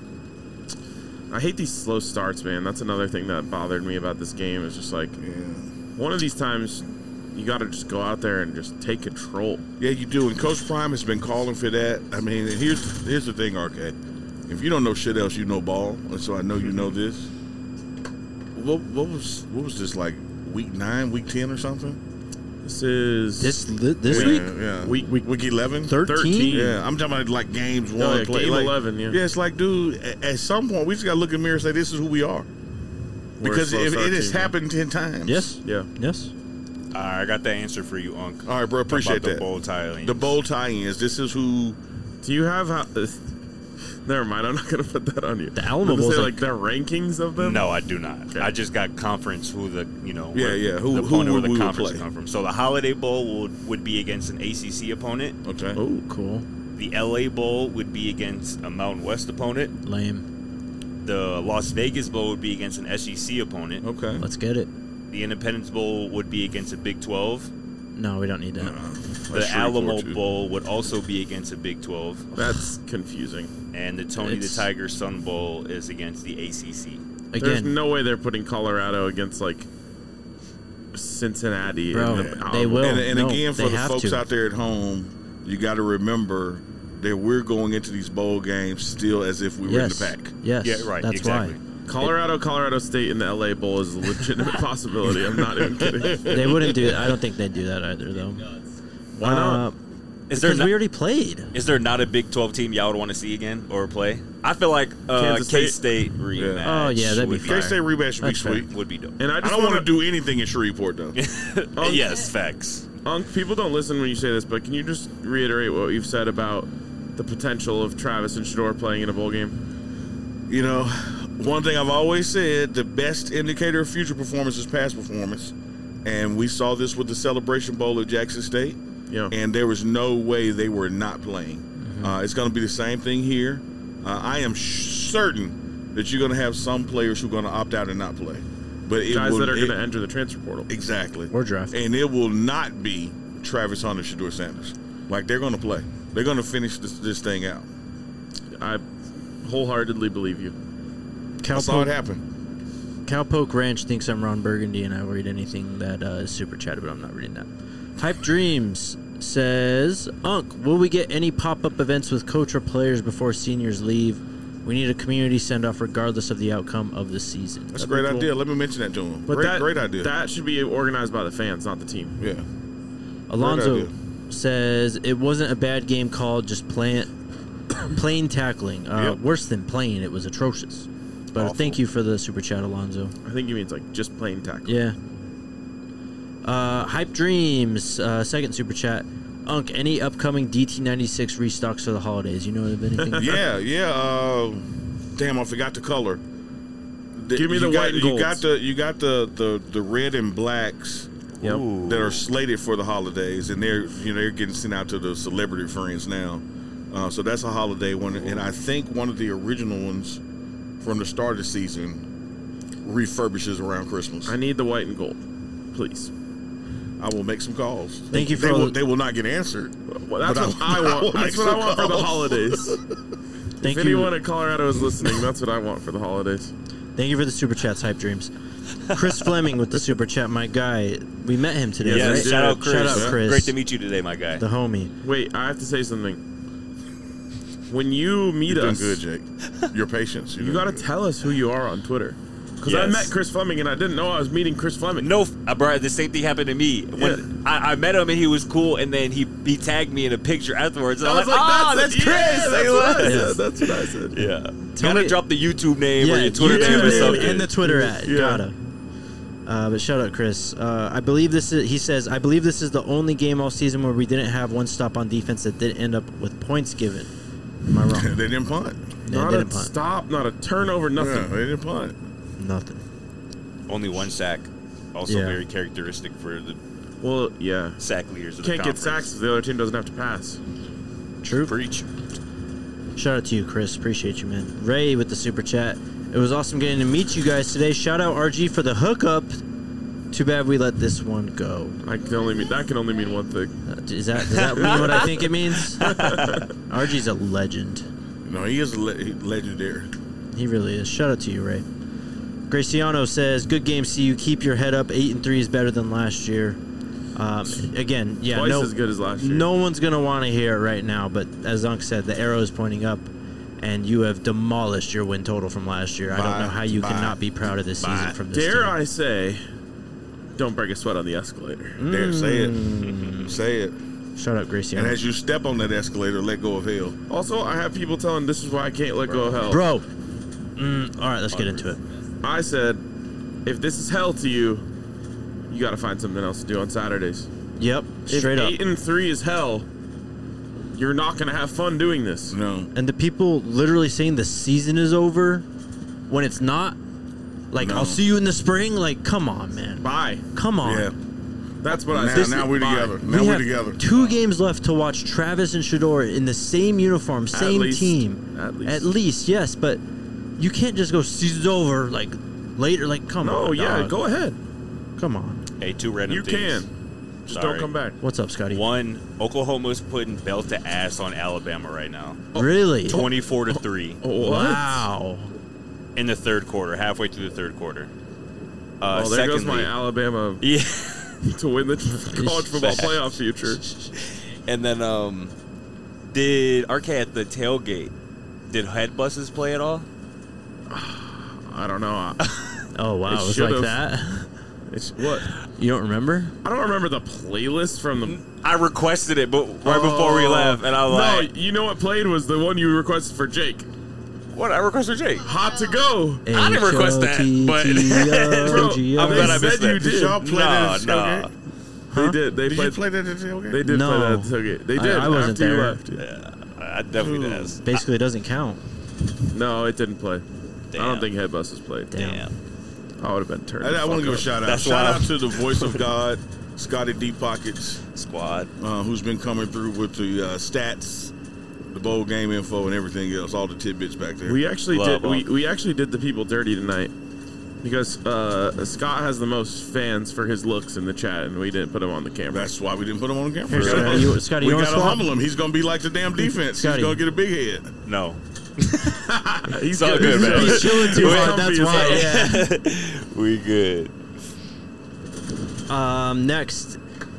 I hate these slow starts, man. That's another thing that bothered me about this game. It's just like Yeah. one of these times you got to just go out there and just take control. Yeah, you do. And Coach Prime has been calling for that. I mean, here's the thing, RK. If you don't know shit else, you know ball. And so I know you know this. What was this, like week 9, week 10 or something? This is This Yeah, week? yeah. Week 11? 13? Yeah, I'm talking about like games Oh, one yeah, play. game like, 11, yeah. it's like, dude, at some point we just got to look in the mirror and say this is who we are. We're a Because slow if start it has team, yeah. happened 10 times. Yes. Yeah. Yes. I got that answer for you, Unc. All right, bro. Appreciate about the that. bowl tie-ins. The bowl tie-ins. This is who. Do you have never mind, I'm not going to put that on you. The Alamo Does it Bowl's say like- like the rankings of them? No, I do not. Okay. I just got conference who the Yeah, yeah, who- the who opponent would or we the would conference play? come from. So the Holiday Bowl would be against an ACC opponent. Okay. Oh, Cool. The LA Bowl would be against a Mountain West opponent. Lame. The Las Vegas Bowl would be against an SEC opponent. Okay. Let's get it. The Independence Bowl would be against a Big 12. No, we don't need that. The That's Alamo Shreveport, too. Bowl would also be against a Big 12. that's confusing. And the Tony It's- the Tiger Sun Bowl is against the ACC. There's Again, no way they're putting Colorado against like Cincinnati. Bro, in the they Alamo. will. And No, again, for they the have folks to. out there at home, you got to remember that we're going into these bowl games still as if we were yes. in the pack. Yes. Yeah, right, That's exactly. why. Colorado State in the LA Bowl is a legitimate possibility. I'm not even kidding. They wouldn't do it. I don't think they'd do that either, though. Why not? Is there Because not, we already played. is there not a Big 12 team y'all would want to see again or play? I feel like Kansas State? K-State rematch. Oh, yeah, that'd be would fine. K-State rematch should be That's fair. sweet. would be dope. And I I just don't want want to do anything in Shreveport, though. Yes, facts. People don't listen when you say this, but can you just reiterate what you've said about the potential of Travis and Shador playing in a bowl game? You know, one thing I've always said, the best indicator of future performance is past performance. And we saw this with the Celebration Bowl at Jackson State. Yeah. And there was no way they were not playing. It's going to be the same thing here. I am certain that you're going to have some players who are going to opt out and not play. But it Guys will, that are going to enter the transfer portal. Exactly. Or draft. And it will not be Travis Hunter, Shador Sanders. Like, they're going to play. They're going to finish this thing out. I wholeheartedly believe you. I saw it happen. Cowpoke Ranch thinks I'm Ron Burgundy and I will read anything that is super chatted, but I'm not reading that. Hype Dreams says, Unc, will we get any pop-up events with coach or players before seniors leave We need a community send-off regardless of the outcome of the season. That's a great idea. Let me mention that to him. But Great idea. That should be organized by the fans, not the team. Yeah. Alonzo idea. says it wasn't a bad game called, just plain tackling. Yep. Worse than plain, it was atrocious. But Awful. thank you for the super chat, Alonzo. I think he means like just plain tackle. Yeah. Hype Dreams, second super chat. Unk, any upcoming DT96 restocks for the holidays? You know of anything? Yeah. Damn, I forgot the color. Give me the white and golds. You got the red and blacks Yep. Ooh. that are slated for the holidays, and they're getting sent out to the celebrity friends now. So that's a holiday one, and I think one of the original ones from the start of the season refurbishes around Christmas. I need the white and gold, please. I will make some calls. Thank you for they will not get answered. Well, that's But what I want. will That's make what I some want for the calls. holidays. Thank If you. anyone in Colorado is listening, that's what I want for the holidays. Thank you for the super chats, Hype Dreams. Chris Fleming with the super chat, my guy. We met him today, Yeah, right? shout out Chris. Shout out Chris. Great to meet you today, my guy. The homie. Wait, I have to say something. When you meet You're doing us, good, Jake. Your patience. you got to tell us who you are on Twitter. Because I Yes. met Chris Fleming and I didn't know I was meeting Chris Fleming. No, bro, the same thing happened to me. When I met him and he was cool, and then he tagged me in a picture afterwards. And I I'm was like, like, that's Chris. Yeah, that's what I Yeah. said. That's what I said. Yeah. Tell Gotta me- drop the YouTube name or Yeah, your Twitter YouTube name or name something. and the Twitter ad. Yeah. Gotta. But shout out Chris. I believe this is. He says, I believe this is the only game all season where we didn't have one stop on defense that didn't end up with points given. Am I wrong? They didn't punt. Yeah, Not didn't a punt. stop, not a turnover, nothing. Yeah, they didn't punt. Nothing. Only one sack. Also Yeah. very characteristic for the Well, yeah. sack leaders of Can't the get conference. sacks if the other team doesn't have to pass. True. Preach. Shout out to you, Chris. Appreciate you, man. Ray with the super chat. It was awesome getting to meet you guys today. Shout out RG for the hookup. Too bad we let this one go. That can only mean one thing. Does that mean what I think it means? RG's a legend. No, he is legendary. He really is. Shout out to you, Ray. Graciano says, "Good game, CU. Keep your head up. 8-3 is better than last year." Again, yeah, Twice no, as good as last year. no one's gonna want to hear it right now. But as Unc said, the arrow is pointing up, and you have demolished your win total from last year. I don't know how you cannot be proud of this season from this Dare team. I say, don't break a sweat on the escalator. There, say it. Say it. Shout out Graciano. And as you step on that escalator, let go of hell. Also, I have people telling this is why I can't let go of hell. Bro. All right, let's get into it. I said, if this is hell to you, you got to find something else to do on Saturdays. Yep, straight if up. 8-3 is hell, you're not going to have fun doing this. No. And the people literally saying the season is over when it's not. Like, No. I'll see you in the spring. Like, come on, man. Bye. Come on. Yeah. That's what I Now, said. now we're Bye. together. We Now we're have together. 2 games left to watch Travis and Shador in the same uniform, same least. team. At least. Yes, but you can't just go season's over like later. Like, come on. No, yeah, dog. go ahead. Come on. Hey, two random You things. can. Just Sorry. don't come back. What's up, Scotty? One, Oklahoma's putting belt to ass on Alabama right now. Really? 24-3 What? Wow. in the third quarter, halfway through the third quarter. Oh, there goes secondly- my Alabama Yeah. to win the college football playoff future. And then, did Arcade at the tailgate, did head buses play at all? I don't know. Oh, wow. It It was should've. like that? It's what? You don't remember? I don't remember the playlist from the. I requested it, but right before we left, and I was no, like, you know what played was the one you requested for Jake. "What? I requested Jake." Hot to go. I didn't request that, but- H-O-T-T-O-G-O. I'm glad I They missed said you that. did. y'all play that at the tailgate? They did. They Did played. you play that at the tailgate? They did No. play that at the tailgate. They did. I wasn't after you there. left. Yeah, I definitely did. Basically, it doesn't count. No, it didn't play. I Damn. don't think head buses played. Damn. I would have been turned. I want to give a shout out. That's Shout why out to the voice of God, Scotty Deep Pockets, Squad. who's been coming through with the stats, the bowl game info, and everything else, all the tidbits back there. We actually Love did. them. We actually did the people dirty tonight because Scott has the most fans for his looks in the chat, and we didn't put him on the camera. That's why we didn't put him on the camera. Here, Scotty, Scotty, we you want got to to swap? humble him. He's going to be like the damn defense. Scotty. He's going to get a big head. No. He's all good, man. He's chilling too hard. comfy That's as why. hell. Yeah. We good. Next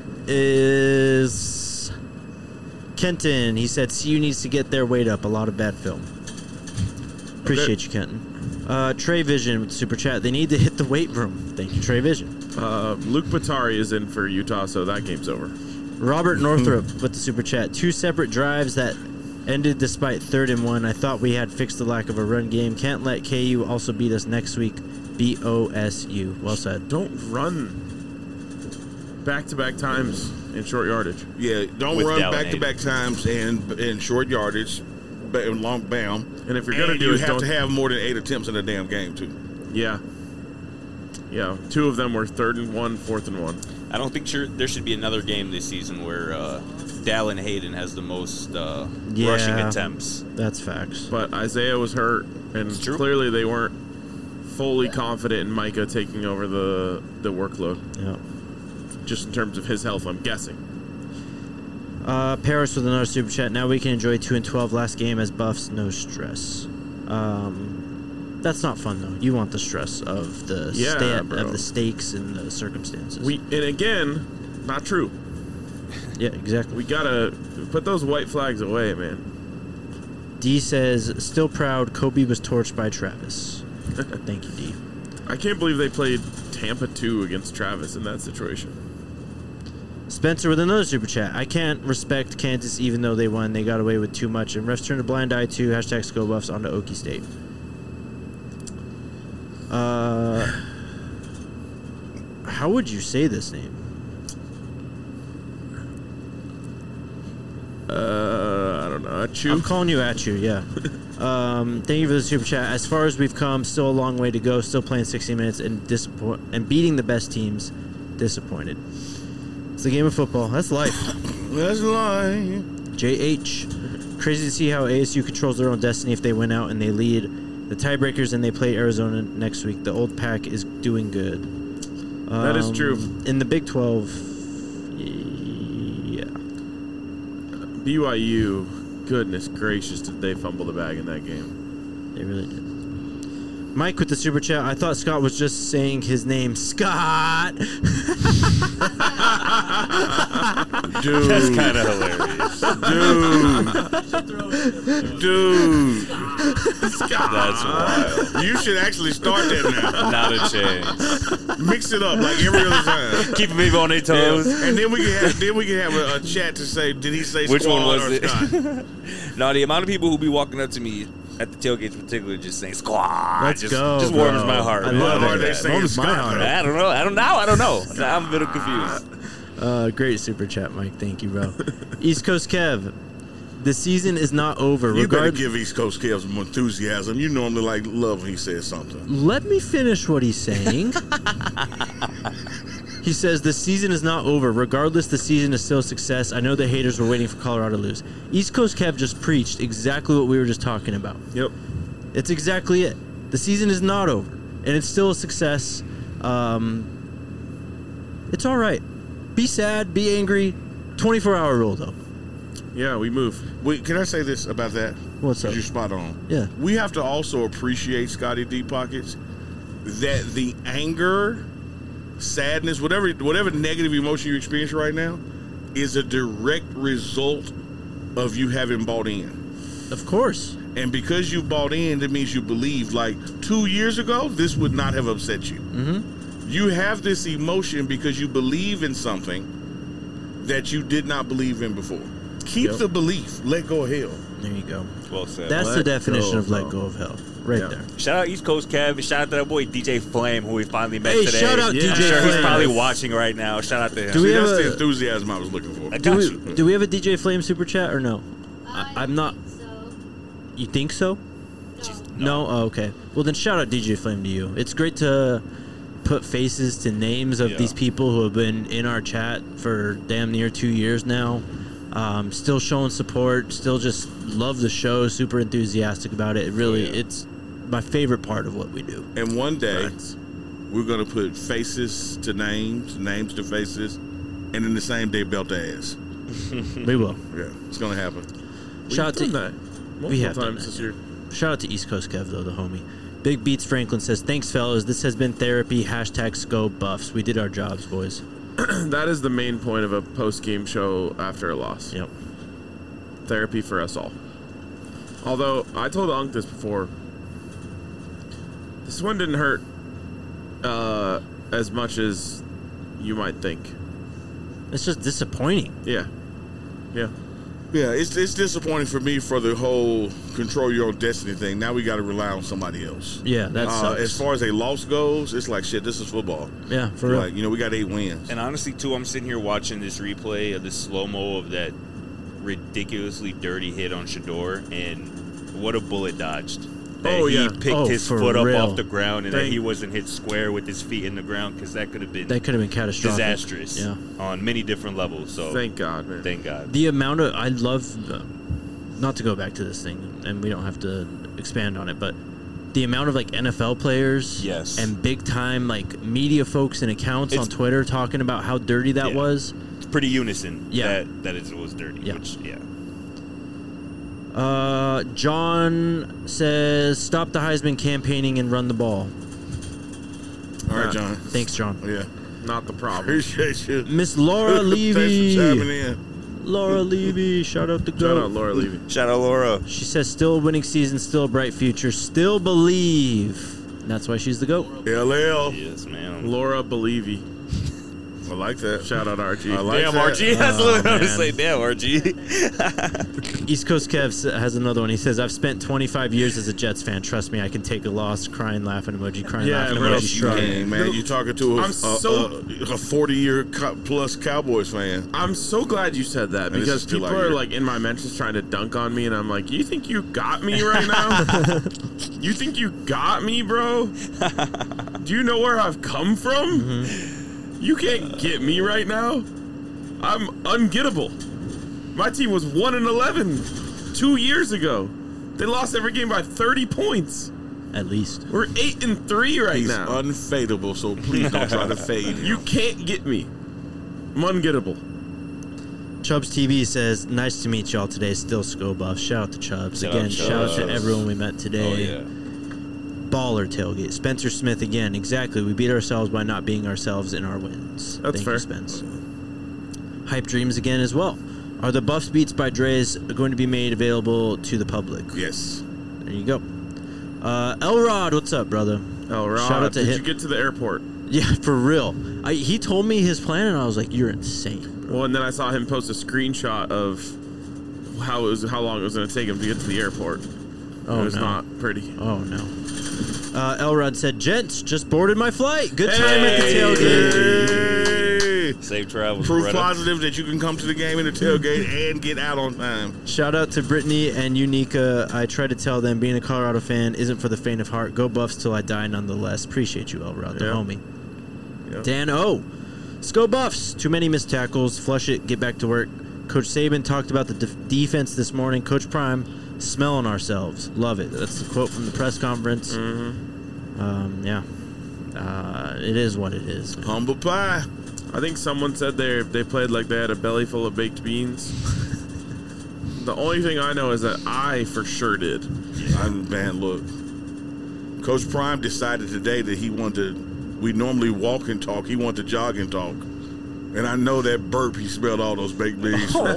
is Kenton. He said CU needs to get their weight up. A lot of bad film. Appreciate you, Kenton. Trey Vision with Super Chat. They need to hit the weight room. Thank you, Trey Vision. Luke Batari is in for Utah, so that game's over. Robert Northrup with the Super Chat. 2 separate drives that ended despite 3rd and 1. I thought we had fixed the lack of a run game. Can't let KU also beat us next week. BOSU. Well said. Don't run back-to-back times in short yardage. Yeah, don't With run Dallin back-to-back times in short yardage, long bam. And if you're going to do you it, have don't to have more than 8 attempts in a damn game, too. Yeah. Yeah, 2 of them were 3rd and 1, 4th and 1. I don't think there should be another game this season where Dallin Hayden has the most rushing attempts. That's facts. But Isaiah was hurt, and It's true. clearly they weren't fully confident in Micah taking over the workload, Yeah. just in terms of his health, I'm guessing. Paris with another Super Chat. Now we can enjoy 2 and 12 last game as Buffs. No stress. That's not fun though. You want the stress of the bro. of the stakes and the circumstances. And again, not true. Yeah, exactly. We gotta put those white flags away, man. D says, still proud Kobe was torched by Travis. Thank you, D. I can't believe they played Tampa 2 against Travis in that situation. Spencer with another Super Chat. I can't respect Kansas even though they won. They got away with too much. And refs turned a blind eye too. Hashtag Skull Buffs onto Okie State. How would you say this name? I don't know. Achu? I'm calling you Achu, yeah. Thank you for the Super Chat. As far as we've come, still a long way to go. Still playing 60 minutes and beating the best teams. Disappointed. It's the game of football. That's life. That's life. JH. Crazy to see how ASU controls their own destiny if they win out and they lead the tiebreakers and they play Arizona next week. The old pack is doing good. That is true. In the Big 12, yeah. BYU, goodness gracious, did they fumble the bag in that game. They really did. Mike with the Super Chat. I thought Scott was just saying his name. Scott! Dude. That's kind of hilarious. Dude. That's wild. You should actually start that now. Not a chance. Mix it up like every other time. Keeping people on their toes. And then we can have a chat to say, did he say Which one squad was or it? Scott? No, the amount of people who be walking up to me at the tailgates, particularly, just saying "squad," Let's just go, just warms bro. my heart. I man. love Or it. they say Warms my Scott. heart. I don't know. I'm a little confused. Great Super Chat, Mike. Thank you, bro. East Coast Kev. The season is not over. You better give East Coast Kev some enthusiasm. You normally love when he says something. Let me finish what he's saying. He says the season is not over. Regardless, the season is still a success. I know the haters were waiting for Colorado to lose. East Coast Kev just preached exactly what we were just talking about. Yep. It's exactly it. The season is not over, and it's still a success. It's all right. Be sad, be angry. 24-hour rule, though. Yeah, we move. Wait, can I say this about that? What's up? You're spot on. Yeah. We have to also appreciate Scotty Deep Pockets that the anger, sadness, whatever negative emotion you experience right now is a direct result of you having bought in. Of course. And because you bought in, that means you believe. Like 2 years ago, this would not have upset you. Mm-hmm. You have this emotion because you believe in something that you did not believe in before. Keep the belief. Let go of hell. There you go. Well said. That's the Let definition go of let of go of hell. Right Yeah. there. Shout out East Coast Kev. And shout out to that boy DJ Flame, who we finally met Hey, today. shout out Yeah. I'm DJ sure he's Flame. probably watching right now. Shout out to him. Do we See, have that's the a- enthusiasm I was looking for. I Do got we, you. do we have a DJ Flame super chat or no? I'm not. think so. You think so? No. No? Oh, okay. Well, then shout out DJ Flame to you. It's great to put faces to names of Yeah. these people who have been in our chat for damn near 2 years now. Still showing support. Still just love the show. Super enthusiastic about it. It really, it's my favorite part of what we do. And one day, Facts. we're going to put faces to names, names to faces, and in the same day, belt to ass. We will. Yeah, it's going to happen. Shout out We've to done that multiple have done times that, this yeah. year. Shout out to East Coast Kev, though, the homie. Big Beats Franklin says, thanks, fellas. This has been therapy. Hashtag SCO Buffs. We did our jobs, boys. That is the main point of a post-game show after a loss. Yep. Therapy for us all. Although, I told Unk this before, This one didn't hurt as much as you might think. It's just disappointing. Yeah. Yeah, it's disappointing for me for the whole control your own destiny thing. Now we got to rely on somebody else. Yeah, that sucks. As far as a loss goes, it's like shit. This is football. Yeah, for real. Like, we got 8 wins. And honestly, too, I'm sitting here watching this replay of the slow-mo of that ridiculously dirty hit on Shador, and what a bullet dodged. That he picked his foot up off the ground, and that he wasn't hit square with his feet in the ground, because that could have been catastrophic. disastrous on many different levels. So thank God, man. Thank God. The amount of I love, not to go back to this thing, and we don't have to expand on it, but the amount of like NFL players, and big time like media folks and accounts on Twitter talking about how dirty that was. It's pretty unison. Yeah, that it was dirty. Yeah. Which, John says, stop the Heisman campaigning and run the ball. All right, John. Thanks, John. Yeah. Not the problem. Appreciate you. Miss Laura Levy. Thanks for chiming in. Laura Levy. Shout out to Shout out Laura Levy. Shout out Laura. She says, still a winning season, still a bright future, still believe. And that's why she's the GOAT. LL. Yes, man. Laura Believy. I like that. Shout out RG. I like Damn, that. RG. That's what I was man. say. Damn, RG. East Coast Kev has another one. He says, I've spent 25 years as a Jets fan. Trust me, I can take a loss. Crying, laughing emoji. Crying, laughing bro. emoji. Shrug. Dang, man, you talking to a I'm so- 40-year plus Cowboys fan. I'm so glad you said that, And this because is still people out are here. like in my mentions trying to dunk on me, and I'm like, you think you got me right now? You think you got me, bro? Do you know where I've come from? Mm-hmm. You can't get me right now. I'm ungettable. My team was 1-11 2 years ago. They lost every game by 30 points. At least. We're 8-3 right He's now. unfadable, so please don't try to fade him. You can't get me. I'm ungettable. Chubbs TV says, nice to meet y'all today. Still Sko Buff. Shout out to Chubbs. Shout Again, out shout out to Chubbs. everyone we met Oh, today. yeah. Baller tailgate. Spencer Smith again. Exactly. We beat ourselves by not being ourselves in our wins. That's Thank fair. you, Spence. Hype Dreams again as well. Are the Buffs Beats by Dre's going to be made available to the public? Yes. There you go. Elrod, what's up, brother? Rod, Shout out to did him. you get to the airport? Yeah, for real. He told me his plan, and I was like, "You're insane." Well, and then I saw him post a screenshot of how long it was going to take him to get to the airport. Oh, it was no. not pretty. Oh no. Elrod said, "Gents, just boarded my flight. Good time at the tailgate." Hey. Safe travels. Proof Beretta. positive that you can come to the game in the tailgate and get out on time. Shout out to Brittany and Unica. I try to tell them being a Colorado fan isn't for the faint of heart. Go Buffs till I die, nonetheless. Appreciate you, Elrod, the Yeah. homie. Yeah. Dan O. Sko Buffs. Too many missed tackles. Flush it. Get back to work. Coach Saban talked about the defense this morning. Coach Prime, smelling ourselves. Love it. That's the quote from the press conference. Yeah. It is what it is. man. Humble pie. I think someone said they played like they had a belly full of baked beans. The only thing I know is that I for sure did. Man, look. Coach Prime decided today that he wanted to, we normally walk and talk, he wanted to jog and talk. And I know that burp, he smelled all those baked beans. My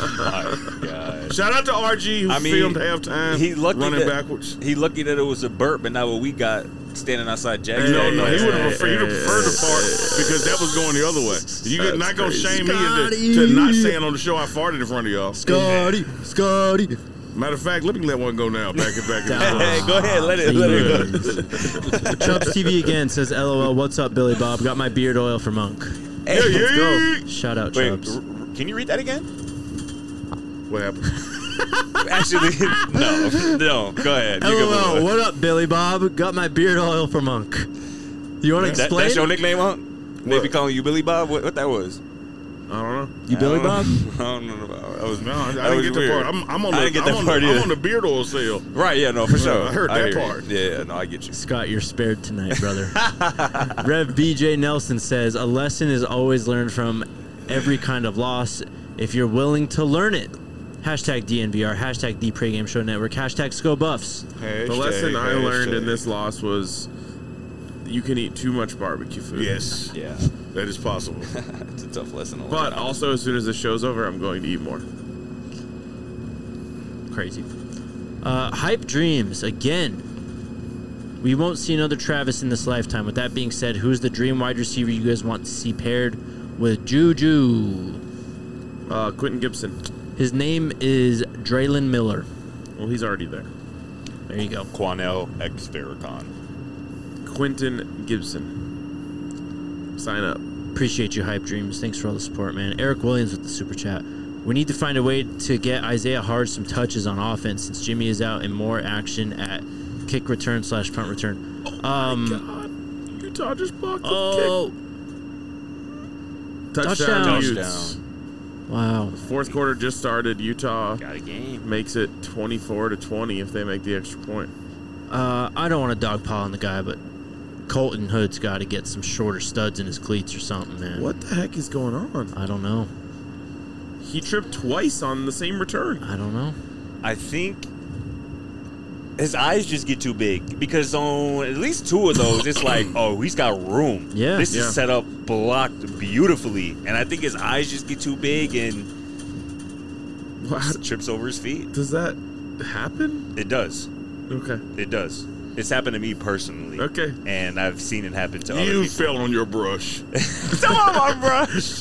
God. Shout out to RG who I mean, filmed halftime he lucky running that, backwards. He lucky that it was a burp, but not what we got standing outside Jackson. No, he would have hey, preferred the part because that was going the other way. You That's not going to crazy. shame me into not saying on the show I farted in front of y'all. Scotty. Matter of fact, let me let one go now. Back. Hey, go ahead, let it go. Chubbs TV again says, LOL, what's up, Billy Bob? Got my beard oil for Monk. Hey, let's go. Shout out, Wait, Chubbs. can you read that again? What happened? Actually, no. Go ahead. You can LOL, move on. what up, Billy Bob? Got my beard oil for Monk. You want to explain? That's your nickname, huh? They be calling you Billy Bob? What that was? I don't know. You Billy I Bob? don't know. That was No, I that didn't was get the weird. part. I'm on I the, didn't get that I'm on part the, I'm either. on the beard oil sale. Right, yeah, no, for sure. I heard that hear you. part. Yeah, no, I get you. Scott, you're spared tonight, brother. Rev BJ Nelson says, a lesson is always learned from every kind of loss if you're willing to learn it. Hashtag DNVR, hashtag The Pregame Show Network, hashtag Sko Buffs. The lesson I learned in this loss was you can eat too much barbecue food. Yes, Yeah, that is possible. it's a tough lesson to learn. But also, as soon as the show's over, I'm going to eat more. Crazy. Hype Dreams, again. We won't see another Travis in this lifetime. With that being said, who's the dream wide receiver you guys want to see paired with Juju? Quentin Gibson. His name is Draylon Miller. Well, he's already there. There you go. Quanell X Farrakhan. Quentin Gibson. Sign up. Appreciate you, Hype Dreams. Thanks for all the support, man. Eric Williams with the super chat. We need to find a way to get Isaiah Hard some touches on offense since Jimmy is out and more action at kick return / punt return. Oh my God. Utah just blocked the kick. Touchdown. Wow. Fourth quarter just started. Utah Got a game. makes it 24-20 if they make the extra point. I don't want to dogpile on the guy, but Colton Hood's got to get some shorter studs in his cleats or something, man. What the heck is going on? I don't know. He tripped twice on the same return. I don't know. I think his eyes just get too big because on at least 2 of those, it's like, oh, he's got room. Yeah. This Yeah. is set up blocked beautifully. And I think his eyes just get too big and trips over his feet. Does that happen? It does. Okay. It does. It's happened to me personally. Okay. And I've seen it happen to other You people. fell on your brush. Some of my brush.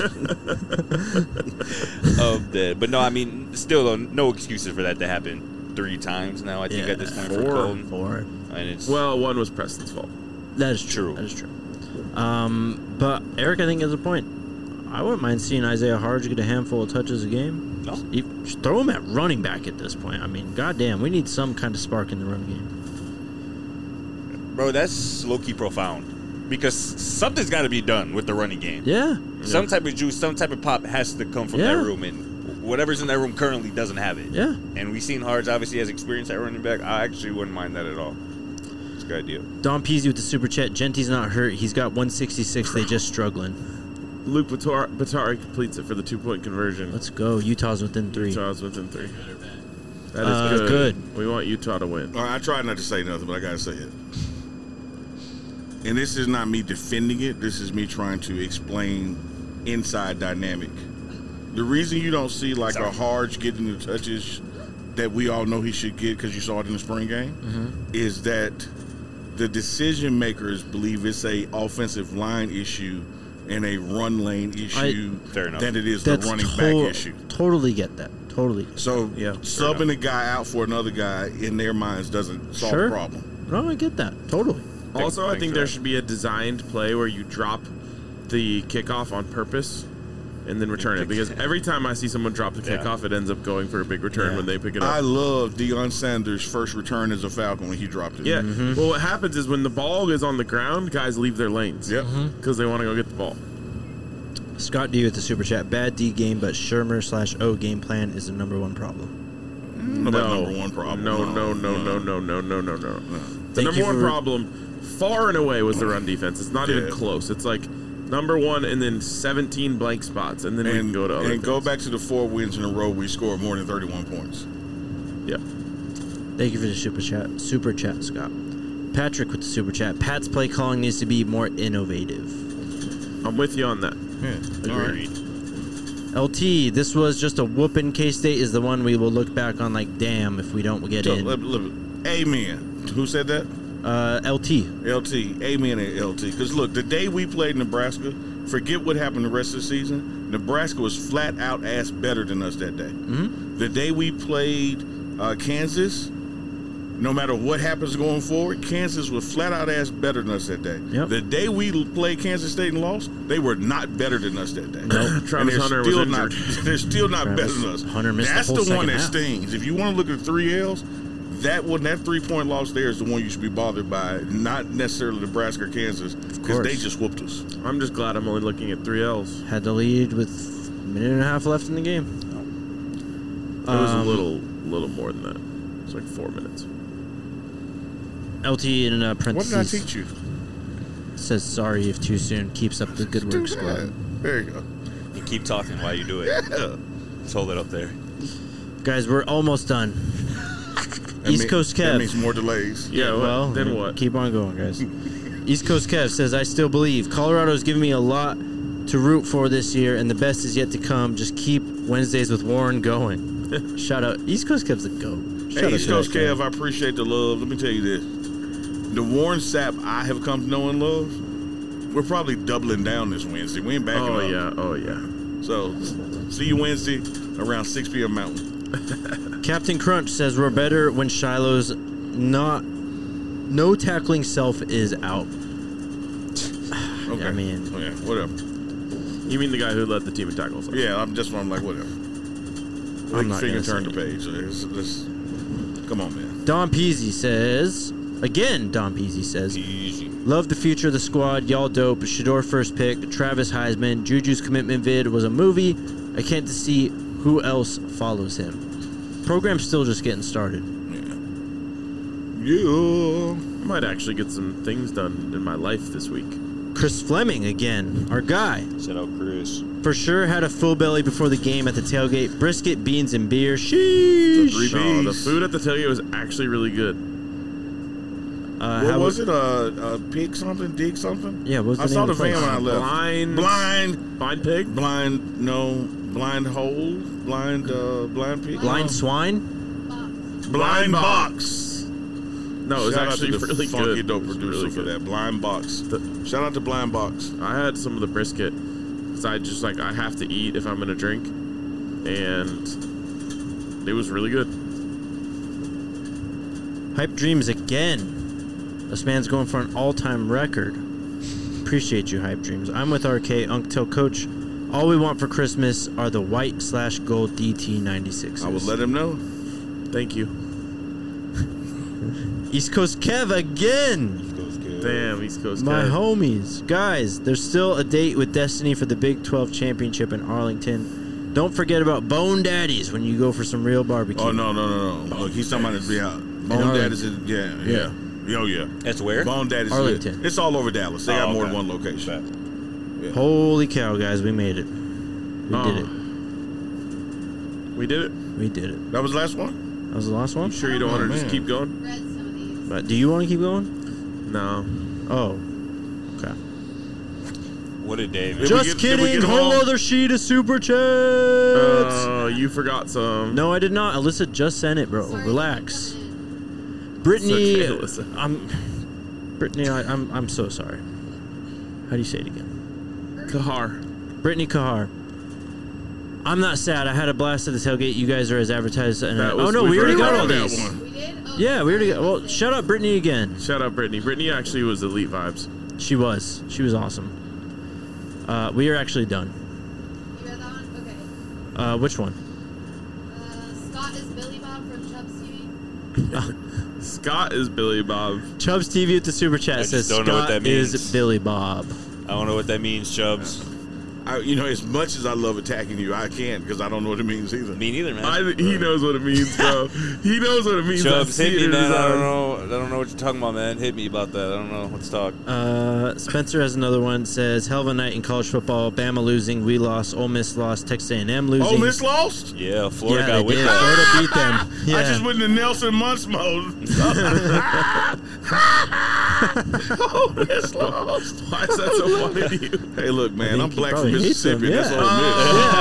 But no, I mean, still, though, no excuses for that to happen 3 times now, I think, at this point for Colton. 4. And it's Well, one was Preston's fault. That is true. That is true. But Eric, I think, has a point. I wouldn't mind seeing Isaiah Harge get a handful of touches a game. No. Just throw him at running back at this point. I mean, goddamn, we need some kind of spark in the run game. Bro, that's low-key profound. Because something's got to be done with the running game. Yeah. Some type of juice, some type of pop has to come from Yeah. that room. And whatever's in that room currently doesn't have it. Yeah. And we've seen Harge obviously has experience at running back. I actually wouldn't mind that at all. It's a good idea. Don Peasy with the super chat. Genty's not hurt. He's got 166. They just struggling. Luke Batari completes it for the 2-point conversion. Let's go. Utah's within 3. Utah's within 3. That is good. We want Utah to win. I tried not to say nothing, but I gotta say it. And this is not me defending it. This is me trying to explain inside dynamic. The reason you don't see like a Harge getting the touches that we all know he should get because you saw it in the spring game is that the decision makers believe it's a offensive line issue and a run lane issue Fair enough. than it is the running back issue. Totally get that. Totally. So Yeah, subbing a guy out for another guy in their minds doesn't solve the problem. No, I get that. Totally. Also, I think there should be a designed play where you drop the kickoff on purpose and then return it. Because every time I see someone drop the kickoff, it ends up going for a big return when they pick it up. I love Deion Sanders' first return as a Falcon when he dropped it. Yeah. Well, what happens is when the ball is on the ground, guys leave their lanes. Yep. Because they want to go get the ball. Scott D with the super chat. Bad D game, but Shermer/O game plan is the #1 problem. Number one problem. No. The Thank number you one for- problem, far and away, was the run defense. It's not even close. It's like number 1 and then 17 blank spots, and then we can go to other And go things. back to the 4 wins in a row we scored more than 31 points. Yeah. Thank you for the super chat. Super chat, Scott. Patrick with the super chat. Pat's play calling needs to be more innovative. I'm with you on that. Agreed. LT, this was just a whooping. K-State is the one we will look back on like, damn, if we don't get in. Amen. Who said that? LT. LT. Amen and LT. Because look, the day we played Nebraska, forget what happened the rest of the season. Nebraska was flat out ass better than us that day. Mm-hmm. The day we played Kansas, no matter what happens going forward, Kansas was flat out ass better than us that day. Yep. The day we played Kansas State and lost, they were not better than us that day. Nope. Travis Hunter was injured. They're still not Travis better than us. Hunter missed That's the whole the one second that half. stings. If you want to look at 3 L's, that 3-point loss there is the one you should be bothered by, not necessarily Nebraska or Kansas, because course. they just whooped us. I'm just glad I'm only looking at 3 L's. Had the lead with a minute and a half left in the game. It was a little more than that. It was like 4 minutes. LT in What parentheses did I teach you? says sorry if too soon. Keeps up the good work, squad. There you go. You keep talking while you do it. Yeah. Just hold it up there. Guys, we're almost done. That East Coast That Kev. means more delays. Yeah, well, then what? Keep on going, guys. East Coast Kev says, I still believe. Colorado's given me a lot to root for this year, and the best is yet to come. Just keep Wednesdays with Warren going. Shout out. East Coast Kev's a goat. Shout Hey, out East to Coast that guy. Kev, I appreciate the love. Let me tell you this. the Warren Sapp I have come to know and love, we're probably doubling down this Wednesday. We ain't backing up. Oh, yeah. So, see you Wednesday around 6 p.m. Mountain. Captain Crunch says we're better when Shiloh's no tackling self is out. Okay. I mean, okay, whatever. You mean the guy who led the team in tackles? Yeah, I'm like, whatever. I'm not Finger gonna turn say the page. Let's, come on, man. Don Peasy says, Easy. love the future of the squad. Y'all dope. Shador first pick. Travis Heisman. Juju's commitment vid was a movie. I can't see who else follows him. Program's still just getting started. Yeah. I might actually get some things done in my life this week. Chris Fleming again, our guy. Shout out Chris. For sure had a full belly before the game at the tailgate. Brisket, beans, and beer. Sheesh. The 3 Oh, the Bs. food at the tailgate was actually really good. What was it? Pig something? Dig something? Yeah, what was the I name saw of the the place? van when I left. Blind pig? Blind hole? Blind pig? Blind swine? Blind box. No, it was Shout actually out to the really funky good. dope It was producer really for good. that. Blind Box. Shout out to Blind Box. I had some of the brisket because I just I have to eat if I'm gonna drink, and it was really good. Hype Dreams again. This man's going for an all-time record. Appreciate you, Hype Dreams. I'm with RK, Unctel Coach. All we want for Christmas are the white/gold DT96s. I will let him know. Thank you. East Coast Kev again. Damn, East Coast My guy. homies. Guys, there's still a date with Destiny for the Big 12 Championship in Arlington. Don't forget about Bone Daddies when you go for some real barbecue. Oh, no. Look, he's talking about it. Bone Daddies is, yeah. Oh, yeah. That's where? Bone Daddies Arlington. It's all over Dallas. They got more than okay. one location. Holy cow, guys. We made it. We did it. We did it. We did it. That was the last one? That was the last one? You sure you don't want to just man. keep going? Read some of these. But do you want to keep going? No. Oh. Okay. What a day, man. Did we Just get kidding. them Whole all? other sheet of super chats. Oh, you forgot some. No, I did not. Alyssa just sent it, bro. Sorry, Relax. coming in. Brittany, It's okay, Alyssa. I'm so sorry. How do you say it again? Kahar. Brittany Kahar. I'm not sad. I had a blast at the tailgate. You guys are as advertised. And That oh was- no, we've we already got already all done these. that one. We did? Oh, Yeah, we already got. sorry. Well, shout out Brittany again. Shout out Brittany. Brittany actually was elite vibes. She was awesome. We are actually done. You read that one? Okay. Which one? Scott is Billy Bob from Chubbs TV. Scott is Billy Bob. Chubbs TV with the super chat just says don't know what Scott that is means. Billy Bob. I don't know what that means, Chubbs. As much as I love attacking you, I can't because I don't know what it means either. Me neither, man. He knows what it means, bro. He knows what it means. Chubbs, I see hit it me, in his man. I don't eyes. know. I don't know what you're talking about, man. Hit me about that. I don't know. Let's talk. Spencer has another one. Says hell of a night in college football. Bama losing. We lost. Ole Miss lost. Texas A&M losing. Ole Miss lost? Yeah, Florida Yeah, got they with did. that. Florida beat them. Yeah. I just went into Nelson Muntz mode. Ole Miss lost. Why is that so funny to you? Hey, look, man, think I'm he black from probably hates Mississippi. them, That's yeah. Ole Miss.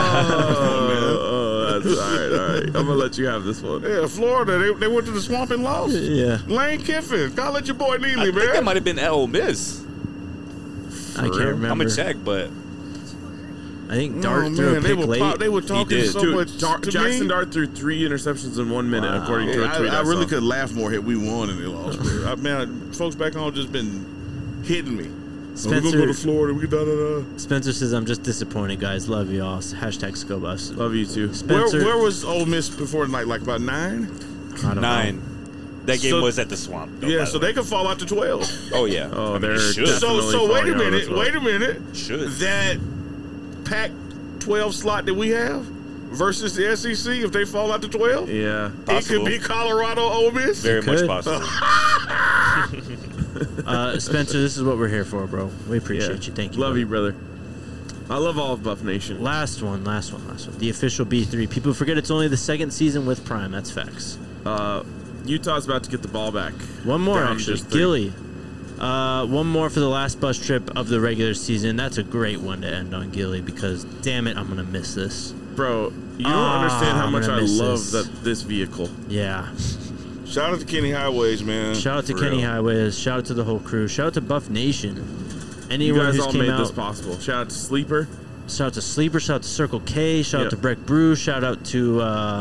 That's all right. I'm gonna let you have this one. Yeah, Florida, they went to the swamp and lost. Yeah. Lane Kiffin, gotta let your boy I Neely, think that man. might have been at Ole Miss. I can't real? remember. I'm gonna check, but I think Dart threw a man, pick late. they were talking did. so Dude, much to Jackson me. Dart threw 3 interceptions in 1 minute, according to a tweet. I really saw. could laugh more had we won and they lost. Man, folks back home just been hitting me. We're gonna go to Florida. We da. Spencer says, I'm just disappointed, guys. Love you all. Hashtag Scobus. Love you too. Spencer, Where was Ole Miss before? Like about 9? I don't know. 9. That game So- was at the Swamp. Though, Yeah, by so the way. they could fall out to 12. Oh yeah. Oh, I mean, they're it should. definitely So wait a falling out of minute. the Wait a minute. Should. That Pac-12 slot that we have versus the SEC, if they fall out to 12, Yeah. it Possible. could be Colorado Ole Miss. Very much could. possible. Spencer, this is what we're here for, bro. We appreciate Yeah. you. Thank you. Love brother. you, brother. I love all of Buff Nation. Last one. The official B3. People forget it's only the second season with Prime. That's facts. Utah's about to get the ball back. One more, Down actually. just 3. Gilly. One more for the last bus trip of the regular season. That's a great one to end on, Gilly, because damn it, I'm going to miss this. Bro, you don't understand how I'm much gonna I miss love this. this vehicle. Yeah. Shout out to Kenny Highways, man. Shout out to Kenny Highways. Shout out to the whole crew. Shout out to Buff Nation. Anyone you guys who's all came made out, this possible. Shout out to Sleeper. Shout out to Sleeper. Shout out to Circle K. Shout out to Breck Brew. Shout out to who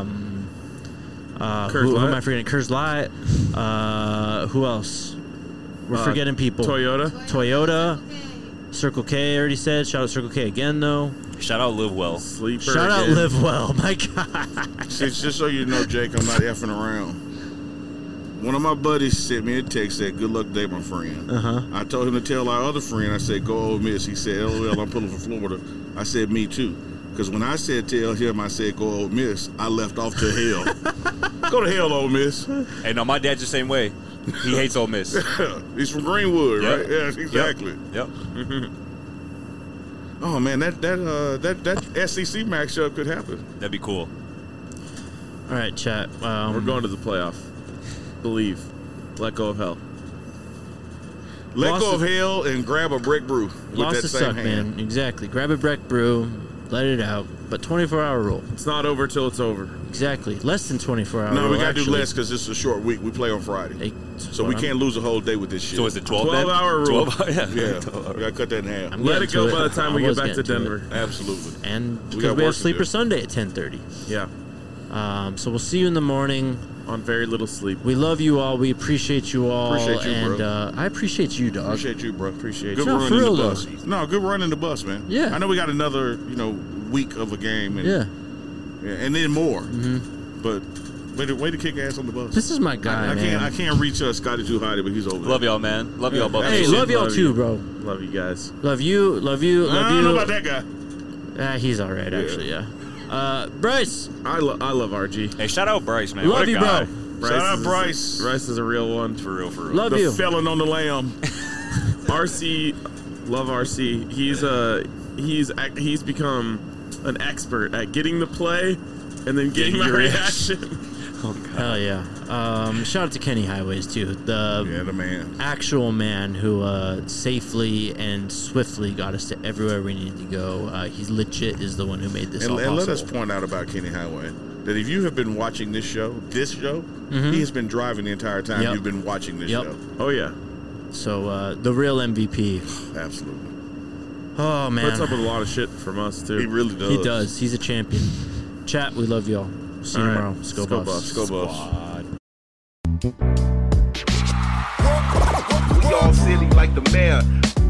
am I forgetting? Kurz Light. Who else? We're forgetting people. Toyota. Circle K, I already said. Shout out Circle K again, though. Shout out Live Well. Sleeper. Shout out Live Well. My God. Just so you know, Jake, I'm not effing around. One of my buddies sent me a text that good luck today, my friend. I told him to tell our other friend, I said, go Ole Miss. He said, LOL, I'm pulling for Florida. I said, me too. Because when I said tell him, I said, go Ole Miss, I left off to hell. Go to hell, Ole Miss. Hey, no, my dad's the same way. He hates Ole Miss. He's from Greenwood, right? Yeah, exactly. Yep. Oh, man, that SEC matchup could happen. That'd be cool. All right, chat. We're going to the playoff. Believe. Let go of hell. Let go of hell and grab a Breck Brew with Lost that to same suck, hand. man. Exactly. Grab a Breck Brew, let it out. But 24-hour rule. It's not over till it's over. Exactly. Less than 24 hours. No, we got to do less because it's a short week. We play on Friday. So we can't lose a whole day with this shit. So is it 12 12-hour rule. 12 Yeah. We got to cut that in half. Let it go by the time we get back to Denver. Absolutely. And We because got we have work to Sleeper do. Sunday at 10:30. Yeah. So we'll see you in the morning. On very little sleep. We love you all. We appreciate you all. Appreciate you, and bro. I appreciate you, dog. Appreciate you, bro. Appreciate Good you. No, run for in real, the though. bus. No, good run in the bus, man. Yeah. I know we got another, week of a game. And, Yeah. and then more. But way to kick ass on the bus. This is my guy, man. I can't reach Scotty too high, but he's over there. Love y'all, man. Love y'all both. Hey, Absolutely. love y'all Love too, you. bro. Love you guys. Love you. Love you. Love I you. don't know about that guy. He's all right, actually. Yeah. Bryce. I love RG. Hey, shout out Bryce, man. Love what a you, guy. bro. Shout out Bryce. Bryce is a real one. For real. Love The you. felon on the lamb. RC, love RC. He's become an expert at getting the play and then getting my your reaction. Hell yeah. Shout out to Kenny Highways too. The man. actual man who safely and swiftly got us to everywhere we needed to go. He's legit is the one who made this all And possible. let us point out about Kenny Highway that if you have been watching this show, he has been driving the entire time Yep. you've been watching this show. Oh yeah. So the real MVP. Absolutely. Oh man. Puts up with a lot of shit from us too. He really does. He does. He's a champion. Chat, we love y'all. See you All right. tomorrow. Let's go, Buffs. Go Buffs. We all silly like the mayor.